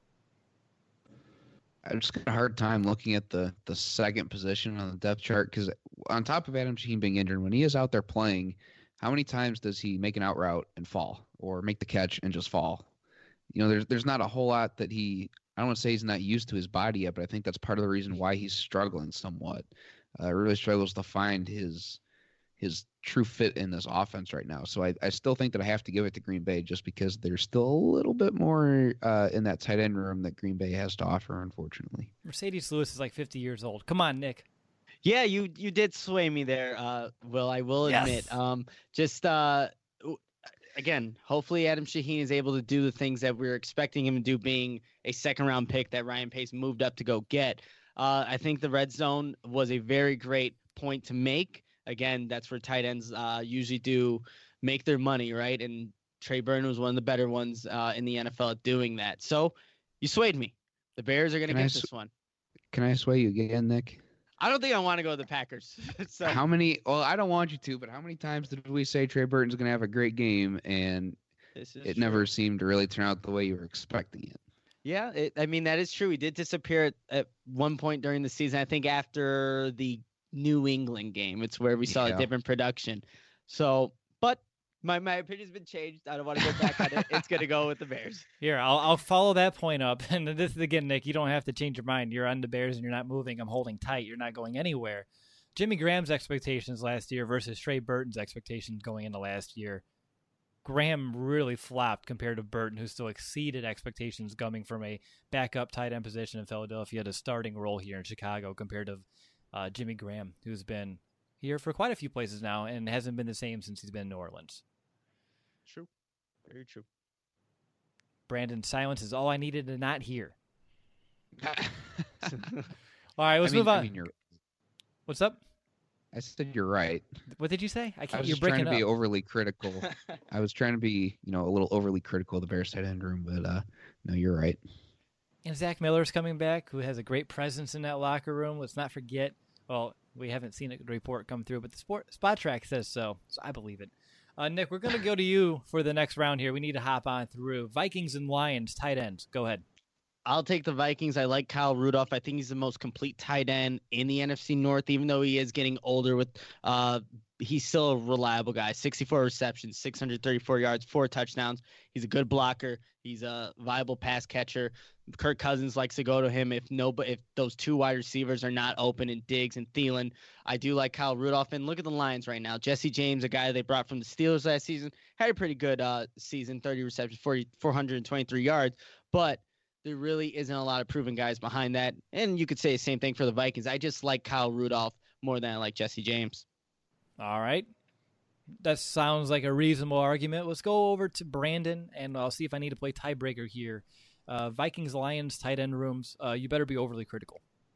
I just got a hard time looking at the, the second position on the depth chart because on top of Adam Shaheen being injured, when he is out there playing, how many times does he make an out route and fall or make the catch and just fall? You know, there's there's not a whole lot that he – I don't want to say he's not used to his body yet, but I think that's part of the reason why he's struggling somewhat. Uh, really struggles to find his his true fit in this offense right now. So I, I still think that I have to give it to Green Bay just because there's still a little bit more uh, in that tight end room that Green Bay has to offer, unfortunately. Mercedes Lewis is like fifty years old. Come on, Nick. Yeah, you you did sway me there, uh, Will. I will admit. Yes. Um, just uh, again, hopefully Adam Shaheen is able to do the things that we we're expecting him to do, being a second round pick that Ryan Pace moved up to go get. Uh, I think the red zone was a very great point to make. Again, that's where tight ends uh, usually do make their money, right? And Trey Burton was one of the better ones uh, in the N F L at doing that. So you swayed me. The Bears are going to get sw- this one. Can I sway you again, Nick? I don't think I want to go to the Packers. so, How many – well, I don't want you to, but how many times did we say Trey Burton's going to have a great game and this is it true. never seemed to really turn out the way you were expecting it? Yeah, it, I mean, that is true. He did disappear at, at one point during the season. I think after the New England game, it's where we saw Yeah. a different production. So, but my, my opinion's been changed. I don't want to go back on it. It's going to go with the Bears. Here, I'll I'll follow that point up. And this is again, Nick, you don't have to change your mind. You're on the Bears and you're not moving. I'm holding tight. You're not going anywhere. Jimmy Graham's expectations last year versus Trey Burton's expectations going into last year. Graham really flopped compared to Burton, who still exceeded expectations coming from a backup tight end position in Philadelphia to starting role here in Chicago compared to uh, Jimmy Graham, who's been here for quite a few places now and hasn't been the same since he's been in New Orleans. True. Very true. Brandon, silence is all I needed to not hear. All right, let's I mean, move on. I mean, you're, What's up? I said you're right. What did you say? I I can't. was You're just trying breaking to be up. overly critical. I was trying to be, you know, a little overly critical of the Bears tight end room, but uh, no, you're right. And Zach Miller's coming back, who has a great presence in that locker room. Let's not forget. Well, we haven't seen a report come through, but the sport, Spot Track says so, so I believe it. Uh, Nick, we're going to go to you for the next round here. We need to hop on through. Vikings and Lions, tight ends. Go ahead. I'll take the Vikings. I like Kyle Rudolph. I think he's the most complete tight end in the N F C North, even though he is getting older. With uh, he's still a reliable guy. sixty-four receptions, six hundred thirty-four yards, four touchdowns. He's a good blocker. He's a viable pass catcher. Kirk Cousins likes to go to him if no, but if those two wide receivers are not open in Diggs and Thielen. I do like Kyle Rudolph. And look at the Lions right now. Jesse James, a guy they brought from the Steelers last season, had a pretty good uh, season, thirty receptions, forty, four hundred twenty-three yards. But there really isn't a lot of proven guys behind that. And you could say the same thing for the Vikings. I just like Kyle Rudolph more than I like Jesse James. All right. That sounds like a reasonable argument. Let's go over to Brandon, and I'll see if I need to play tiebreaker here. Uh, Vikings, Lions, tight end rooms. Uh, you better be overly critical.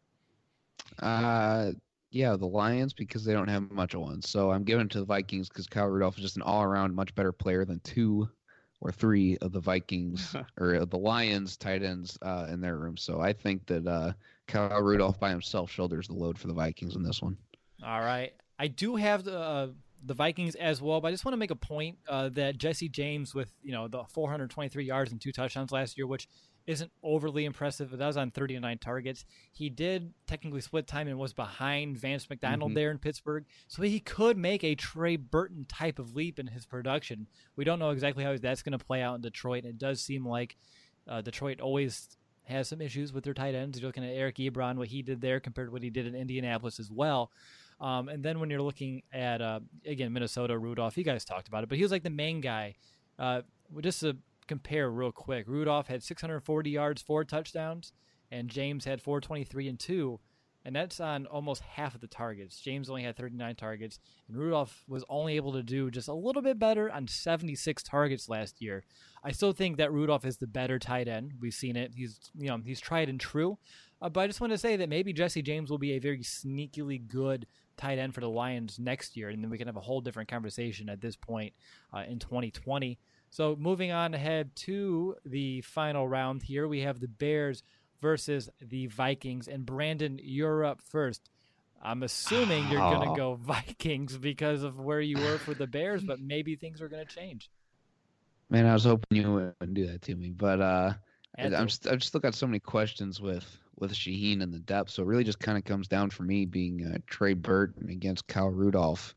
Uh, yeah, the Lions, because they don't have much of one. So I'm giving it to the Vikings because Kyle Rudolph is just an all-around much better player than two or three of the Vikings or the Lions tight ends uh, in their room. So I think that uh, Kyle Rudolph by himself shoulders the load for the Vikings in this one. All right. I do have the uh, the Vikings as well, but I just want to make a point uh, that Jesse James with, you know, the four hundred twenty-three yards and two touchdowns last year, which isn't overly impressive, but that was on thirty-nine targets. He did technically split time and was behind Vance McDonald mm-hmm. there in Pittsburgh, so he could make a Trey Burton type of leap in his production. We don't know exactly how that's going to play out in Detroit, and it does seem like uh, Detroit always has some issues with their tight ends. You're looking at Eric Ebron, what he did there compared to what he did in Indianapolis as well. Um, and then when you're looking at, uh, again, Minnesota, Rudolph, you guys talked about it, but he was like the main guy. Uh, just to compare real quick, Rudolph had six hundred forty yards, four touchdowns, and James had four twenty-three and two, and that's on almost half of the targets. James only had thirty-nine targets, and Rudolph was only able to do just a little bit better on seventy-six targets last year. I still think that Rudolph is the better tight end. We've seen it. He's, you know, he's tried and true. Uh, but I just want to say that maybe Jesse James will be a very sneakily good tight end for the Lions next year, and then we can have a whole different conversation at this point uh, in twenty twenty. So moving on ahead to the final round here, we have the Bears versus the Vikings. And Brandon, you're up first. I'm assuming you're going to go Vikings because of where you were for the Bears, but maybe things are going to change. Man, I was hoping you wouldn't do that to me, but uh, I'm just, I've just still got so many questions with, with Shaheen and the depth. So it really just kind of comes down for me being uh, Trey Burton against Kyle Rudolph.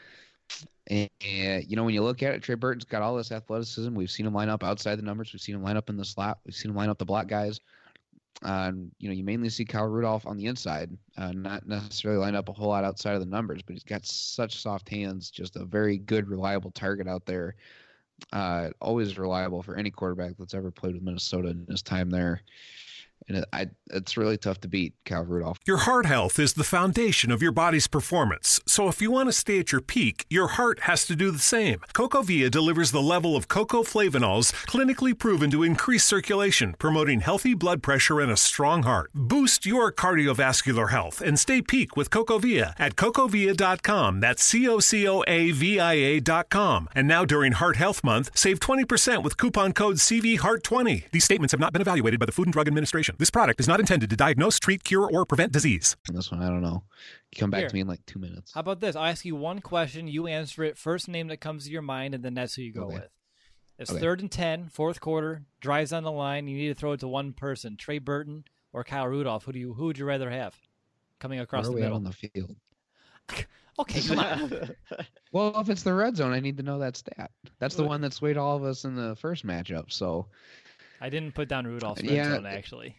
And, and, you know, when you look at it, Trey Burton's got all this athleticism. We've seen him line up outside the numbers. We've seen him line up in the slot. We've seen him line up the block guys. Uh, and, you know, you mainly see Kyle Rudolph on the inside, uh, not necessarily line up a whole lot outside of the numbers, but he's got such soft hands, just a very good, reliable target out there. Uh, always reliable for any quarterback that's ever played with Minnesota in his time there. And it, I, it's really tough to beat Kyle Rudolph. Your heart health is the foundation of your body's performance. So if you want to stay at your peak, your heart has to do the same. CocoVia delivers the level of cocoa flavanols clinically proven to increase circulation, promoting healthy blood pressure and a strong heart. Boost your cardiovascular health and stay peak with CocoVia at cocovia dot com. That's C O C O A V I A dot com. And now during Heart Health Month, save twenty percent with coupon code C V Heart twenty. These statements have not been evaluated by the Food and Drug Administration. This product is not intended to diagnose, treat, cure, or prevent disease. And this one, I don't know. Come back Here. to me in like two minutes. How about this? I'll ask you one question. You answer it. First name that comes to your mind, and then that's who you go Okay. with. It's Okay. third and ten, fourth quarter, drives on the line. You need to throw it to one person, Trey Burton or Kyle Rudolph. Who do you? Who would you rather have coming across Where are the we at middle? on the field? Okay, come on. Well, if it's the red zone, I need to know that stat. That's the one that swayed all of us in the first matchup. So, I didn't put down Rudolph's red Yeah. zone, actually.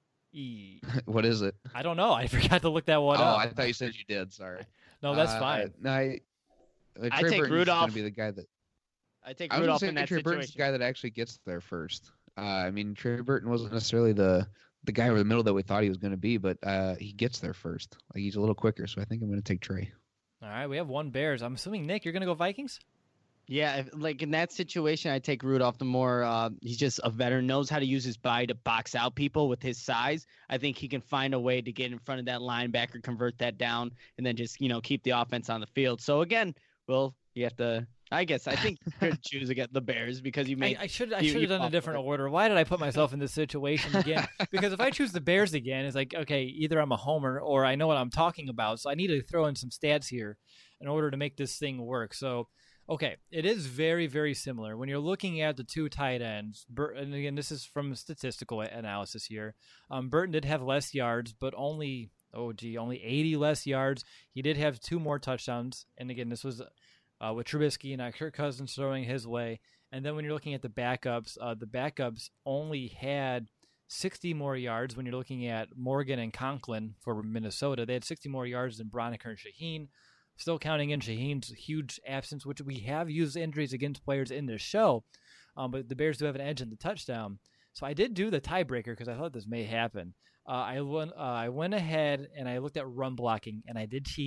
E. what is it? I don't know. I forgot to look that one oh, up. I thought you said you did. Sorry. No, that's Uh, fine. No, I, uh, I Trey take Burton's Rudolph. Going to be the guy that I take I was Rudolph gonna in say that Trey Burton's the situation. guy that actually gets there first. Uh, I mean, Trey Burton wasn't necessarily the the guy over the middle that we thought he was going to be, but uh, he gets there first. Like he's a little quicker, so I think I'm going to take Trey. All right, we have one Bears. I'm assuming, Nick, you're going to go Vikings? Yeah, if, like in that situation, I take Rudolph. The more uh, he's just a veteran, knows how to use his body to box out people with his size. I think he can find a way to get in front of that linebacker, convert that down, and then just you know keep the offense on the field. So again, well, you have to. I guess I think you could choose against the Bears because you I, made. I should I you- should you have done a fought different for it. order. Why did I put myself in this situation again? Because if I choose the Bears again, it's like, okay, either I'm a homer or I know what I'm talking about. So I need to throw in some stats here in order to make this thing work. So, okay, it is very, very similar. When you're looking at the two tight ends, Bur- and again, this is from statistical analysis here, um, Burton did have less yards, but only, oh, gee, only eighty less yards. He did have two more touchdowns. And again, this was uh, with Trubisky and uh, Kirk Cousins throwing his way. And then when you're looking at the backups, uh, the backups only had sixty more yards. When you're looking at Morgan and Conklin for Minnesota, they had sixty more yards than Broniker and Shaheen. Still counting in Shaheen's huge absence, which we have used injuries against players in this show, um, but the Bears do have an edge in the touchdown. So I did do the tiebreaker because I thought this may happen. Uh, I went, uh, I went ahead and I looked at run blocking, and I did cheat.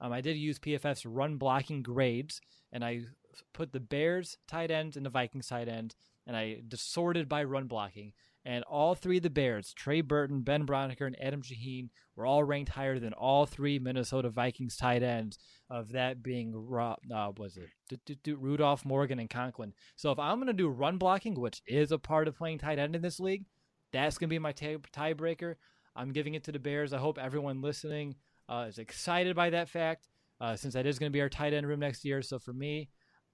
Um, I did use P F F's run blocking grades, and I put the Bears tight ends and the Vikings tight ends, and I sorted by run blocking. And all three of the Bears, Trey Burton, Ben Braunecker, and Adam Shaheen, were all ranked higher than all three Minnesota Vikings tight ends, of that being, uh, was it Rudolph, Morgan, and Conklin. So if I'm going to do run blocking, which is a part of playing tight end in this league, that's going to be my tie- tiebreaker. I'm giving it to the Bears. I hope everyone listening uh, is excited by that fact, uh, since that is going to be our tight end room next year. So for me,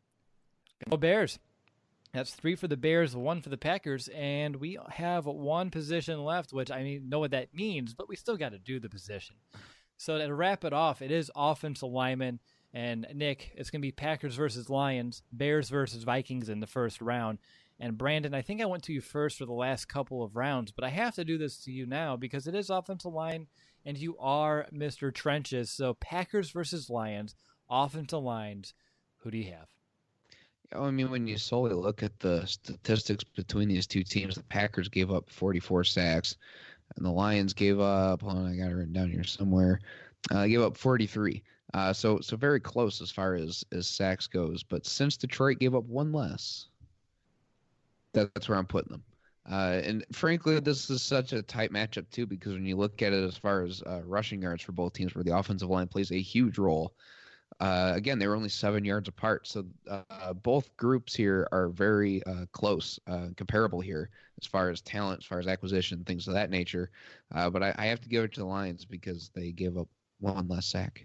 go Bears. That's three for the Bears, one for the Packers, and we have one position left, which I mean, know what that means, but we still got to do the position. So to wrap it off, it is offensive lineman, and Nick, it's going to be Packers versus Lions, Bears versus Vikings in the first round. And Brandon, I think I went to you first for the last couple of rounds, but I have to do this to you now because it is offensive line, and you are Mister Trenches. So Packers versus Lions, offensive lines, who do you have? I mean, when you solely look at the statistics between these two teams, the Packers gave up forty-four sacks, and the Lions gave up, hold on, I got it written down here somewhere, uh, they gave up forty-three. Uh, so so very close as far as, as sacks goes. But since Detroit gave up one less, that, that's where I'm putting them. Uh, and frankly, this is such a tight matchup, too, because when you look at it as far as uh, rushing yards for both teams, where the offensive line plays a huge role, Uh, again, they were only seven yards apart, so uh, both groups here are very uh, close, uh, comparable here as far as talent, as far as acquisition, things of that nature. Uh, but I, I have to give it to the Lions because they give up one less sack.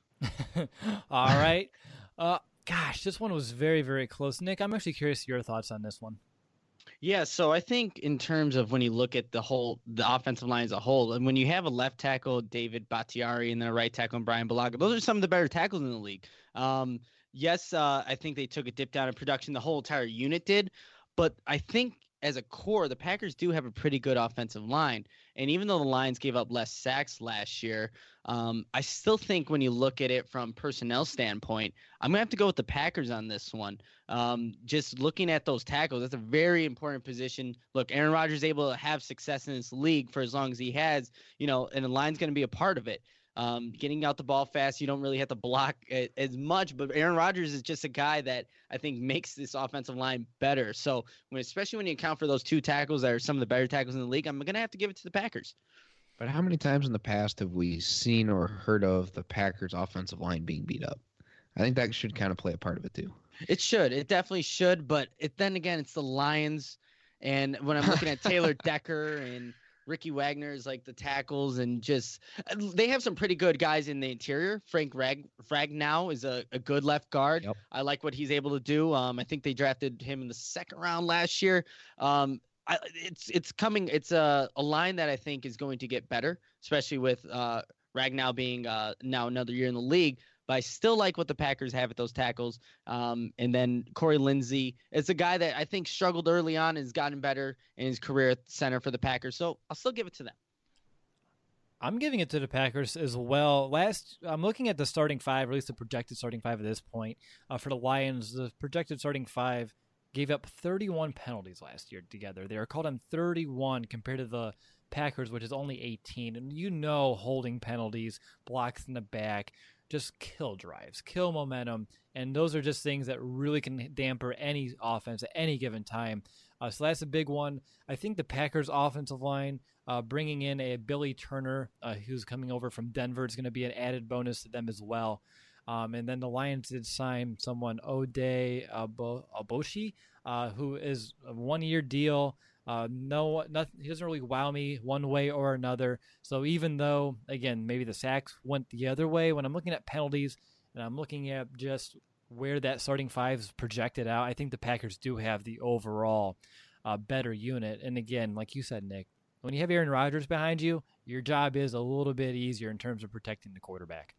All right. Uh, gosh, this one was very, very close. Nick, I'm actually curious your thoughts on this one. Yeah, so I think in terms of when you look at the whole, the offensive line as a whole, and when you have a left tackle, David Bakhtiari, and then a right tackle, Brian Bulaga, those are some of the better tackles in the league. Um, yes, uh, I think they took a dip down in production. The whole entire unit did. But I think as a core, the Packers do have a pretty good offensive line. And even though the Lions gave up less sacks last year, um, I still think when you look at it from personnel standpoint, I'm going to have to go with the Packers on this one. Um, just looking at those tackles, that's a very important position. Look, Aaron Rodgers is able to have success in this league for as long as he has, you know, and the line's going to be a part of it. Um, getting out the ball fast, you don't really have to block as much, but Aaron Rodgers is just a guy that I think makes this offensive line better. So when, especially when you account for those two tackles that are some of the better tackles in the league, I'm going to have to give it to the Packers. But how many times in the past have we seen or heard of the Packers offensive line being beat up? I think that should kind of play a part of it too. It should. It definitely should. But it, then again, it's the Lions. And when I'm looking at Taylor Decker and Ricky Wagner is like the tackles, and just they have some pretty good guys in the interior. Frank Rag Ragnow is a, a good left guard. Yep. I like what he's able to do. Um, I think they drafted him in the second round last year. Um, I, it's it's coming. It's a, a line that I think is going to get better, especially with uh, Ragnow being uh, now another year in the league. But I still like what the Packers have at those tackles. Um, and then Corey Lindsey is a guy that I think struggled early on and has gotten better in his career at center for the Packers. So I'll still give it to them. I'm giving it to the Packers as well. Last, I'm looking at the starting five, or at least the projected starting five at this point. Uh, for the Lions, the projected starting five gave up thirty-one penalties last year together. They are called on thirty-one compared to the Packers, which is only eighteen. And you know, holding penalties, blocks in the back, just kill drives, kill momentum, and those are just things that really can damper any offense at any given time. Uh, so that's a big one. I think the Packers' offensive line, uh, bringing in a Billy Turner, uh, who's coming over from Denver, is going to be an added bonus to them as well. Um, and then the Lions did sign someone, Ode Abo- Aboshi, uh, who is a one-year deal. Uh, no, nothing, he doesn't really wow me one way or another. So even though, again, maybe the sacks went the other way, when I'm looking at penalties and I'm looking at just where that starting five is projected out, I think the Packers do have the overall uh, better unit. And again, like you said, Nick, when you have Aaron Rodgers behind you, your job is a little bit easier in terms of protecting the quarterback.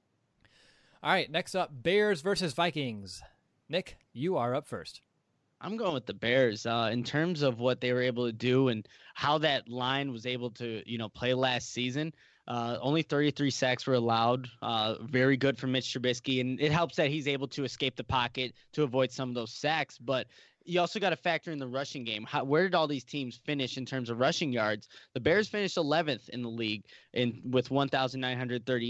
All right, next up, Bears versus Vikings. Nick, you are up first. I'm going with the Bears uh, in terms of what they were able to do and how that line was able to, you know, play last season. Uh, only thirty-three sacks were allowed. Uh, very good for Mitch Trubisky, and it helps that he's able to escape the pocket to avoid some of those sacks. But you also got to factor in the rushing game. How, where did all these teams finish in terms of rushing yards? The Bears finished eleventh in the league in with one thousand nine hundred thirty-eight.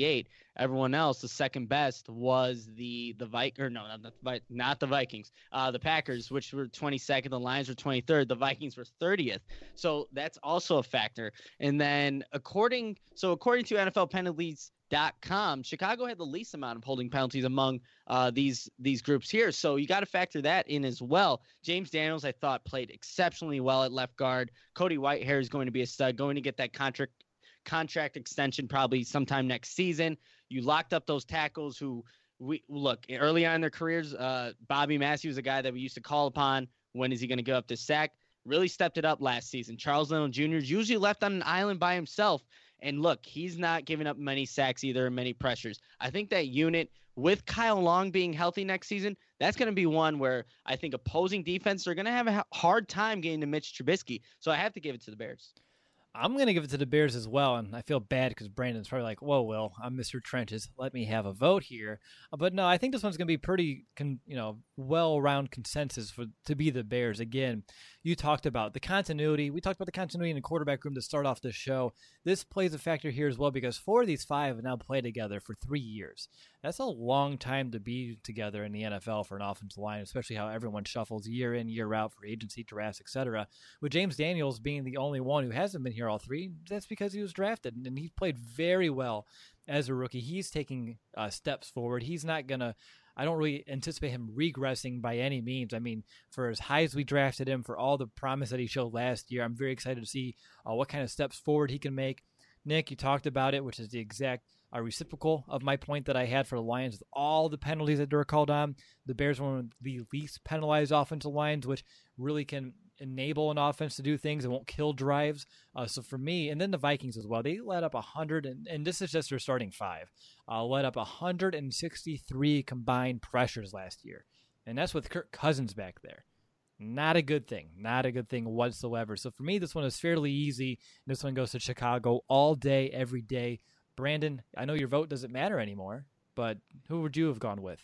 everyone else, the second best was the the Vi- or no, not the, not the Vikings, uh, the Packers, which were twenty-second. The Lions were twenty-third. The Vikings were thirtieth. So that's also a factor. And then according so according to N F L penalties dot com, Chicago had the least amount of holding penalties among uh, these these groups here. So you got to factor that in as well. James Daniels, I thought, played exceptionally well at left guard. Cody Whitehair is going to be a stud, going to get that contract contract extension probably sometime next season. You locked up those tackles who we look early on in their careers. Uh, Bobby Massey was a guy that we used to call upon. When is he going to give up this sack? Really stepped it up last season. Charles Leno Junior is usually left on an island by himself. And look, he's not giving up many sacks either, many pressures. I think that unit with Kyle Long being healthy next season, that's going to be one where I think opposing defense are going to have a hard time getting to Mitch Trubisky. So I have to give it to the Bears. I'm going to give it to the Bears as well, and I feel bad because Brandon's probably like, whoa, Will, I'm Mister Trenches. Let me have a vote here. Uh, but no, I think this one's going to be pretty, con- you know, well-round consensus for to be the Bears. Again, you talked about the continuity. We talked about the continuity in the quarterback room to start off the show. This plays a factor here as well because four of these five have now played together for three years. That's a long time to be together in the N F L for an offensive line, especially how everyone shuffles year in, year out for agency, drafts, et cetera. With James Daniels being the only one who hasn't been here all three, that's because he was drafted, and he played very well as a rookie. He's taking uh, steps forward. He's not going to – I don't really anticipate him regressing by any means. I mean, for as high as we drafted him, for all the promise that he showed last year, I'm very excited to see uh, what kind of steps forward he can make. Nick, you talked about it, which is the exact – a reciprocal of my point that I had for the Lions with all the penalties that were called on. The Bears were one of the least penalized offensive lines, which really can enable an offense to do things and won't kill drives. Uh, so for me, and then the Vikings as well, they let up one hundred, and, and this is just their starting five, uh, let up one hundred sixty-three combined pressures last year. And that's with Kirk Cousins back there. Not a good thing. Not a good thing whatsoever. So for me, this one is fairly easy. This one goes to Chicago all day, every day. Brandon, I know your vote doesn't matter anymore, but who would you have gone with?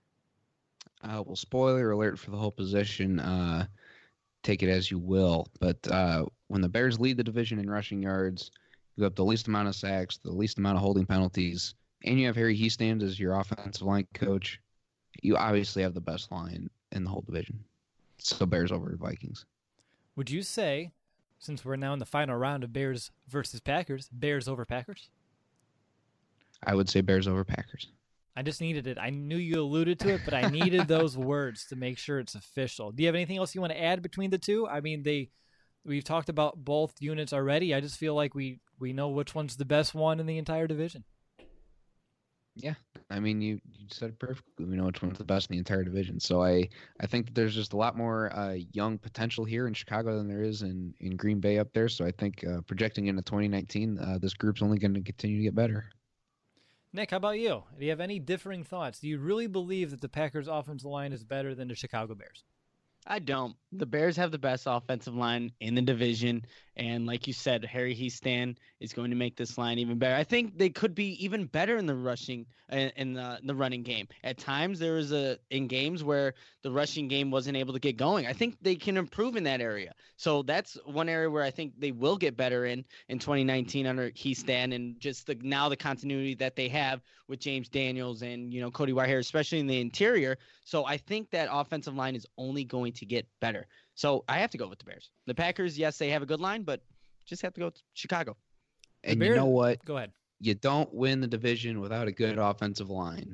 Uh, well, spoiler alert for the whole position. Uh, take it as you will. But uh, when the Bears lead the division in rushing yards, you have the least amount of sacks, the least amount of holding penalties, and you have Harry Hiestand as your offensive line coach, you obviously have the best line in the whole division. So Bears over Vikings. Would you say, since we're now in the final round of Bears versus Packers, Bears over Packers? I would say Bears over Packers. I just needed it. I knew you alluded to it, but I needed those words to make sure it's official. Do you have anything else you want to add between the two? I mean, they we've talked about both units already. I just feel like we, we know which one's the best one in the entire division. Yeah, I mean, you, you said it perfectly. We know which one's the best in the entire division. So I, I think that there's just a lot more uh, young potential here in Chicago than there is in, in Green Bay up there. So I think uh, projecting into twenty nineteen, uh, this group's only going to continue to get better. Nick, how about you? Do you have any differing thoughts? Do you really believe that the Packers' offensive line is better than the Chicago Bears? I don't. The Bears have the best offensive line in the division. And like you said, Harry Hiestand is going to make this line even better. I think they could be even better in the rushing in the, in the running game. At times there was a in games where the rushing game wasn't able to get going. I think they can improve in that area. So that's one area where I think they will get better in in twenty nineteen under Hiestand, and just the now the continuity that they have with James Daniels and, you know, Cody Whitehair, especially in the interior. So I think that offensive line is only going to get better. So I have to go with the Bears. The Packers, yes, they have a good line, but just have to go with Chicago. And Bears, you know what? Go ahead. You don't win the division without a good offensive line.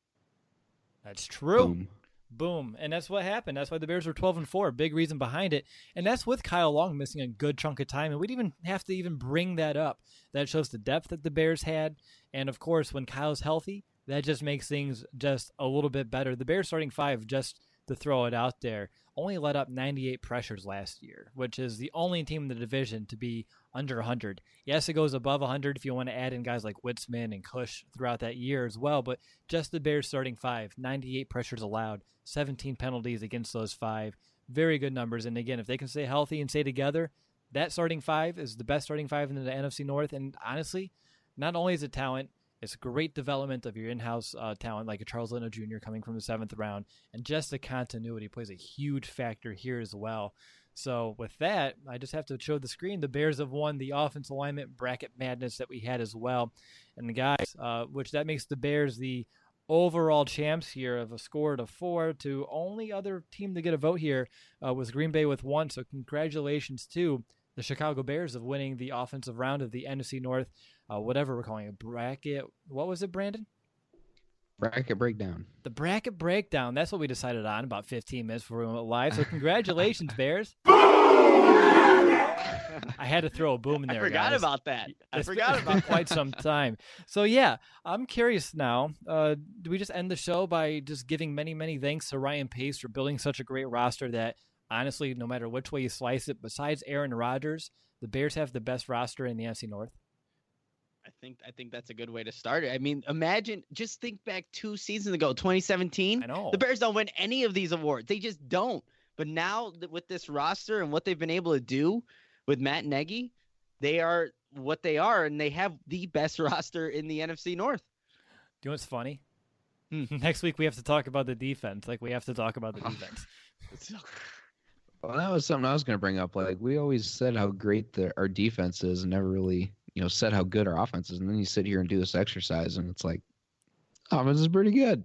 That's true. Boom. Boom. And that's what happened. That's why the Bears were twelve and four. Big reason behind it. And that's with Kyle Long missing a good chunk of time. And we'd even have to even bring that up. That shows the depth that the Bears had. And of course, when Kyle's healthy, that just makes things just a little bit better. The Bears starting five, just to throw it out there, only let up ninety-eight pressures last year, which is the only team in the division to be under one hundred. Yes, it goes above one hundred if you want to add in guys like Witzman and Cush throughout that year as well, but just the Bears starting five, ninety-eight pressures allowed, seventeen penalties against those five. Very good numbers. And again, if they can stay healthy and stay together, that starting five is the best starting five in the N F C North. And honestly, not only is it talent, it's great development of your in-house uh, talent, like a Charles Leno Junior coming from the seventh round, and just the continuity plays a huge factor here as well. So with that, I just have to show the screen. The Bears have won the offensive alignment bracket madness that we had as well. And the guys, uh, which that makes the Bears the overall champs here of a score of four. To only other team to get a vote here uh, was Green Bay with one. So congratulations to the Chicago Bears of winning the offensive round of the N F C North, uh, whatever we're calling it, bracket. What was it, Brandon? Bracket breakdown. The bracket breakdown. That's what we decided on about fifteen minutes before we went live. So congratulations, Bears. I had to throw a boom in there. I forgot guys. about that. I It's forgot been about quite some time. So yeah, I'm curious now. Uh, do we just end the show by just giving many, many thanks to Ryan Pace for building such a great roster that honestly, no matter which way you slice it, besides Aaron Rodgers, the Bears have the best roster in the N F C North? I think I think that's a good way to start it. I mean, imagine, just think back two seasons ago, twenty seventeen. I know. The Bears don't win any of these awards. They just don't. But now with this roster and what they've been able to do with Matt Nagy, they are what they are, and they have the best roster in the N F C North. Do you know what's funny? Hmm. Next week we have to talk about the defense. Like we have to talk about the defense. Well, that was something I was going to bring up. Like, we always said how great the, our defense is and never really, you know, said how good our offense is. And then you sit here and do this exercise, and it's like, offense is pretty good.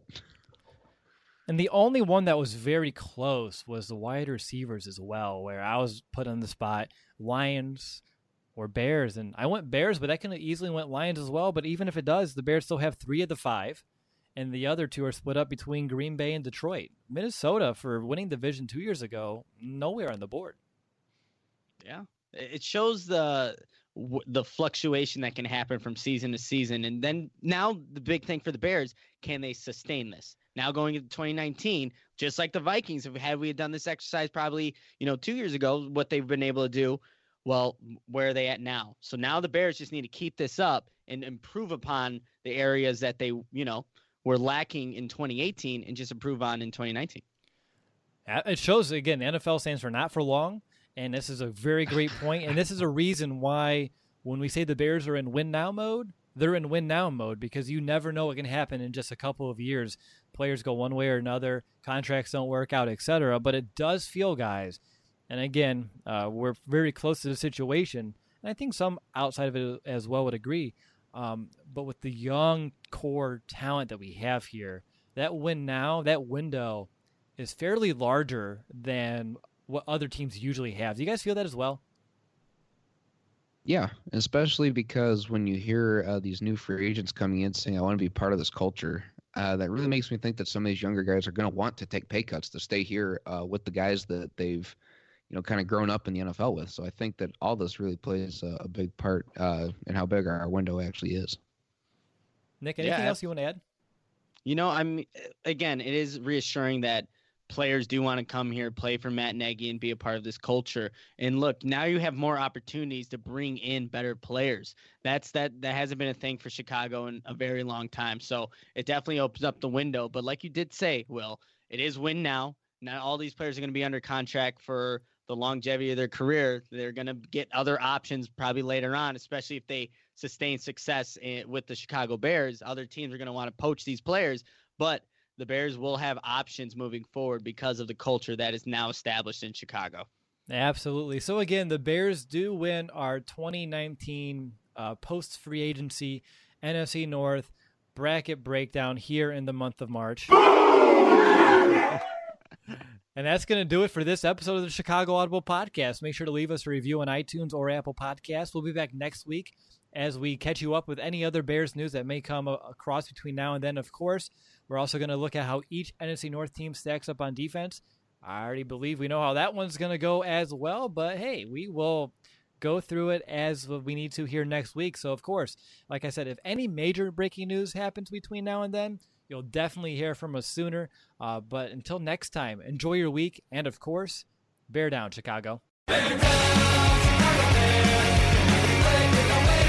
And the only one that was very close was the wide receivers as well, where I was put on the spot, Lions or Bears. And I went Bears, but that could have easily went Lions as well. But even if it does, the Bears still have three of the five. And the other two are split up between Green Bay and Detroit. Minnesota, for winning division two years ago, nowhere on the board. Yeah, it shows the the fluctuation that can happen from season to season. And then now the big thing for the Bears, can they sustain this? Now going into twenty nineteen, just like the Vikings, if had we had done this exercise probably, you know, two years ago, what they've been able to do, well, where are they at now? So now the Bears just need to keep this up and improve upon the areas that they, you know, were lacking in twenty eighteen and just improve on in twenty nineteen. It shows, again, the N F L stands for not for long, and this is a very great point, and this is a reason why when we say the Bears are in win-now mode, they're in win-now mode, because you never know what can happen in just a couple of years. Players go one way or another, contracts don't work out, et cetera, but it does feel, guys, and again, uh, we're very close to the situation, and I think some outside of it as well would agree. Um, but with the young core talent that we have here, that win now, that window is fairly larger than what other teams usually have. Do you guys feel that as well? Yeah, especially because when you hear uh, these new free agents coming in saying, I want to be part of this culture, uh, that really makes me think that some of these younger guys are going to want to take pay cuts to stay here uh, with the guys that they've you know, kind of grown up in the N F L with. So I think that all this really plays a, a big part uh, in how big our window actually is. Nick, anything yeah, else you want to add? You know, I'm again, it is reassuring that players do want to come here, play for Matt Nagy, and be a part of this culture. And look, now you have more opportunities to bring in better players. That's that that hasn't been a thing for Chicago in a very long time. So it definitely opens up the window. But like you did say, Will, it is win now. Not all these players are going to be under contract for the longevity of their career. They're going to get other options probably later on, especially if they sustain success in, with the Chicago Bears. Other teams are going to want to poach these players, but the Bears will have options moving forward because of the culture that is now established in Chicago. Absolutely. So again, the Bears do win our twenty nineteen uh, post-free agency N F C North bracket breakdown here in the month of March. And that's going to do it for this episode of the Chicago Audible Podcast. Make sure to leave us a review on iTunes or Apple Podcasts. We'll be back next week as we catch you up with any other Bears news that may come across between now and then. Of course, we're also going to look at how each N F C North team stacks up on defense. I already believe we know how that one's going to go as well, but hey, we will go through it as we need to here next week. So, of course, like I said, if any major breaking news happens between now and then, you'll definitely hear from us sooner. Uh, but until next time, enjoy your week. And, of course, bear down, Chicago. Bear down, Chicago Bears.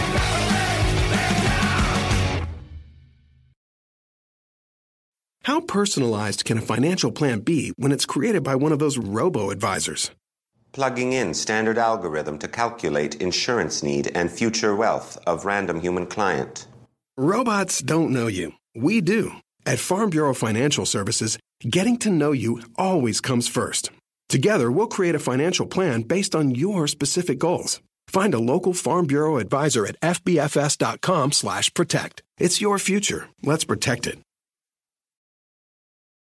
How personalized can a financial plan be when it's created by one of those robo-advisors? Plugging in standard algorithm to calculate insurance need and future wealth of random human client. Robots don't know you. We do. At Farm Bureau Financial Services, getting to know you always comes first. Together, we'll create a financial plan based on your specific goals. Find a local Farm Bureau advisor at f b f s dot com slash protect. It's your future. Let's protect it.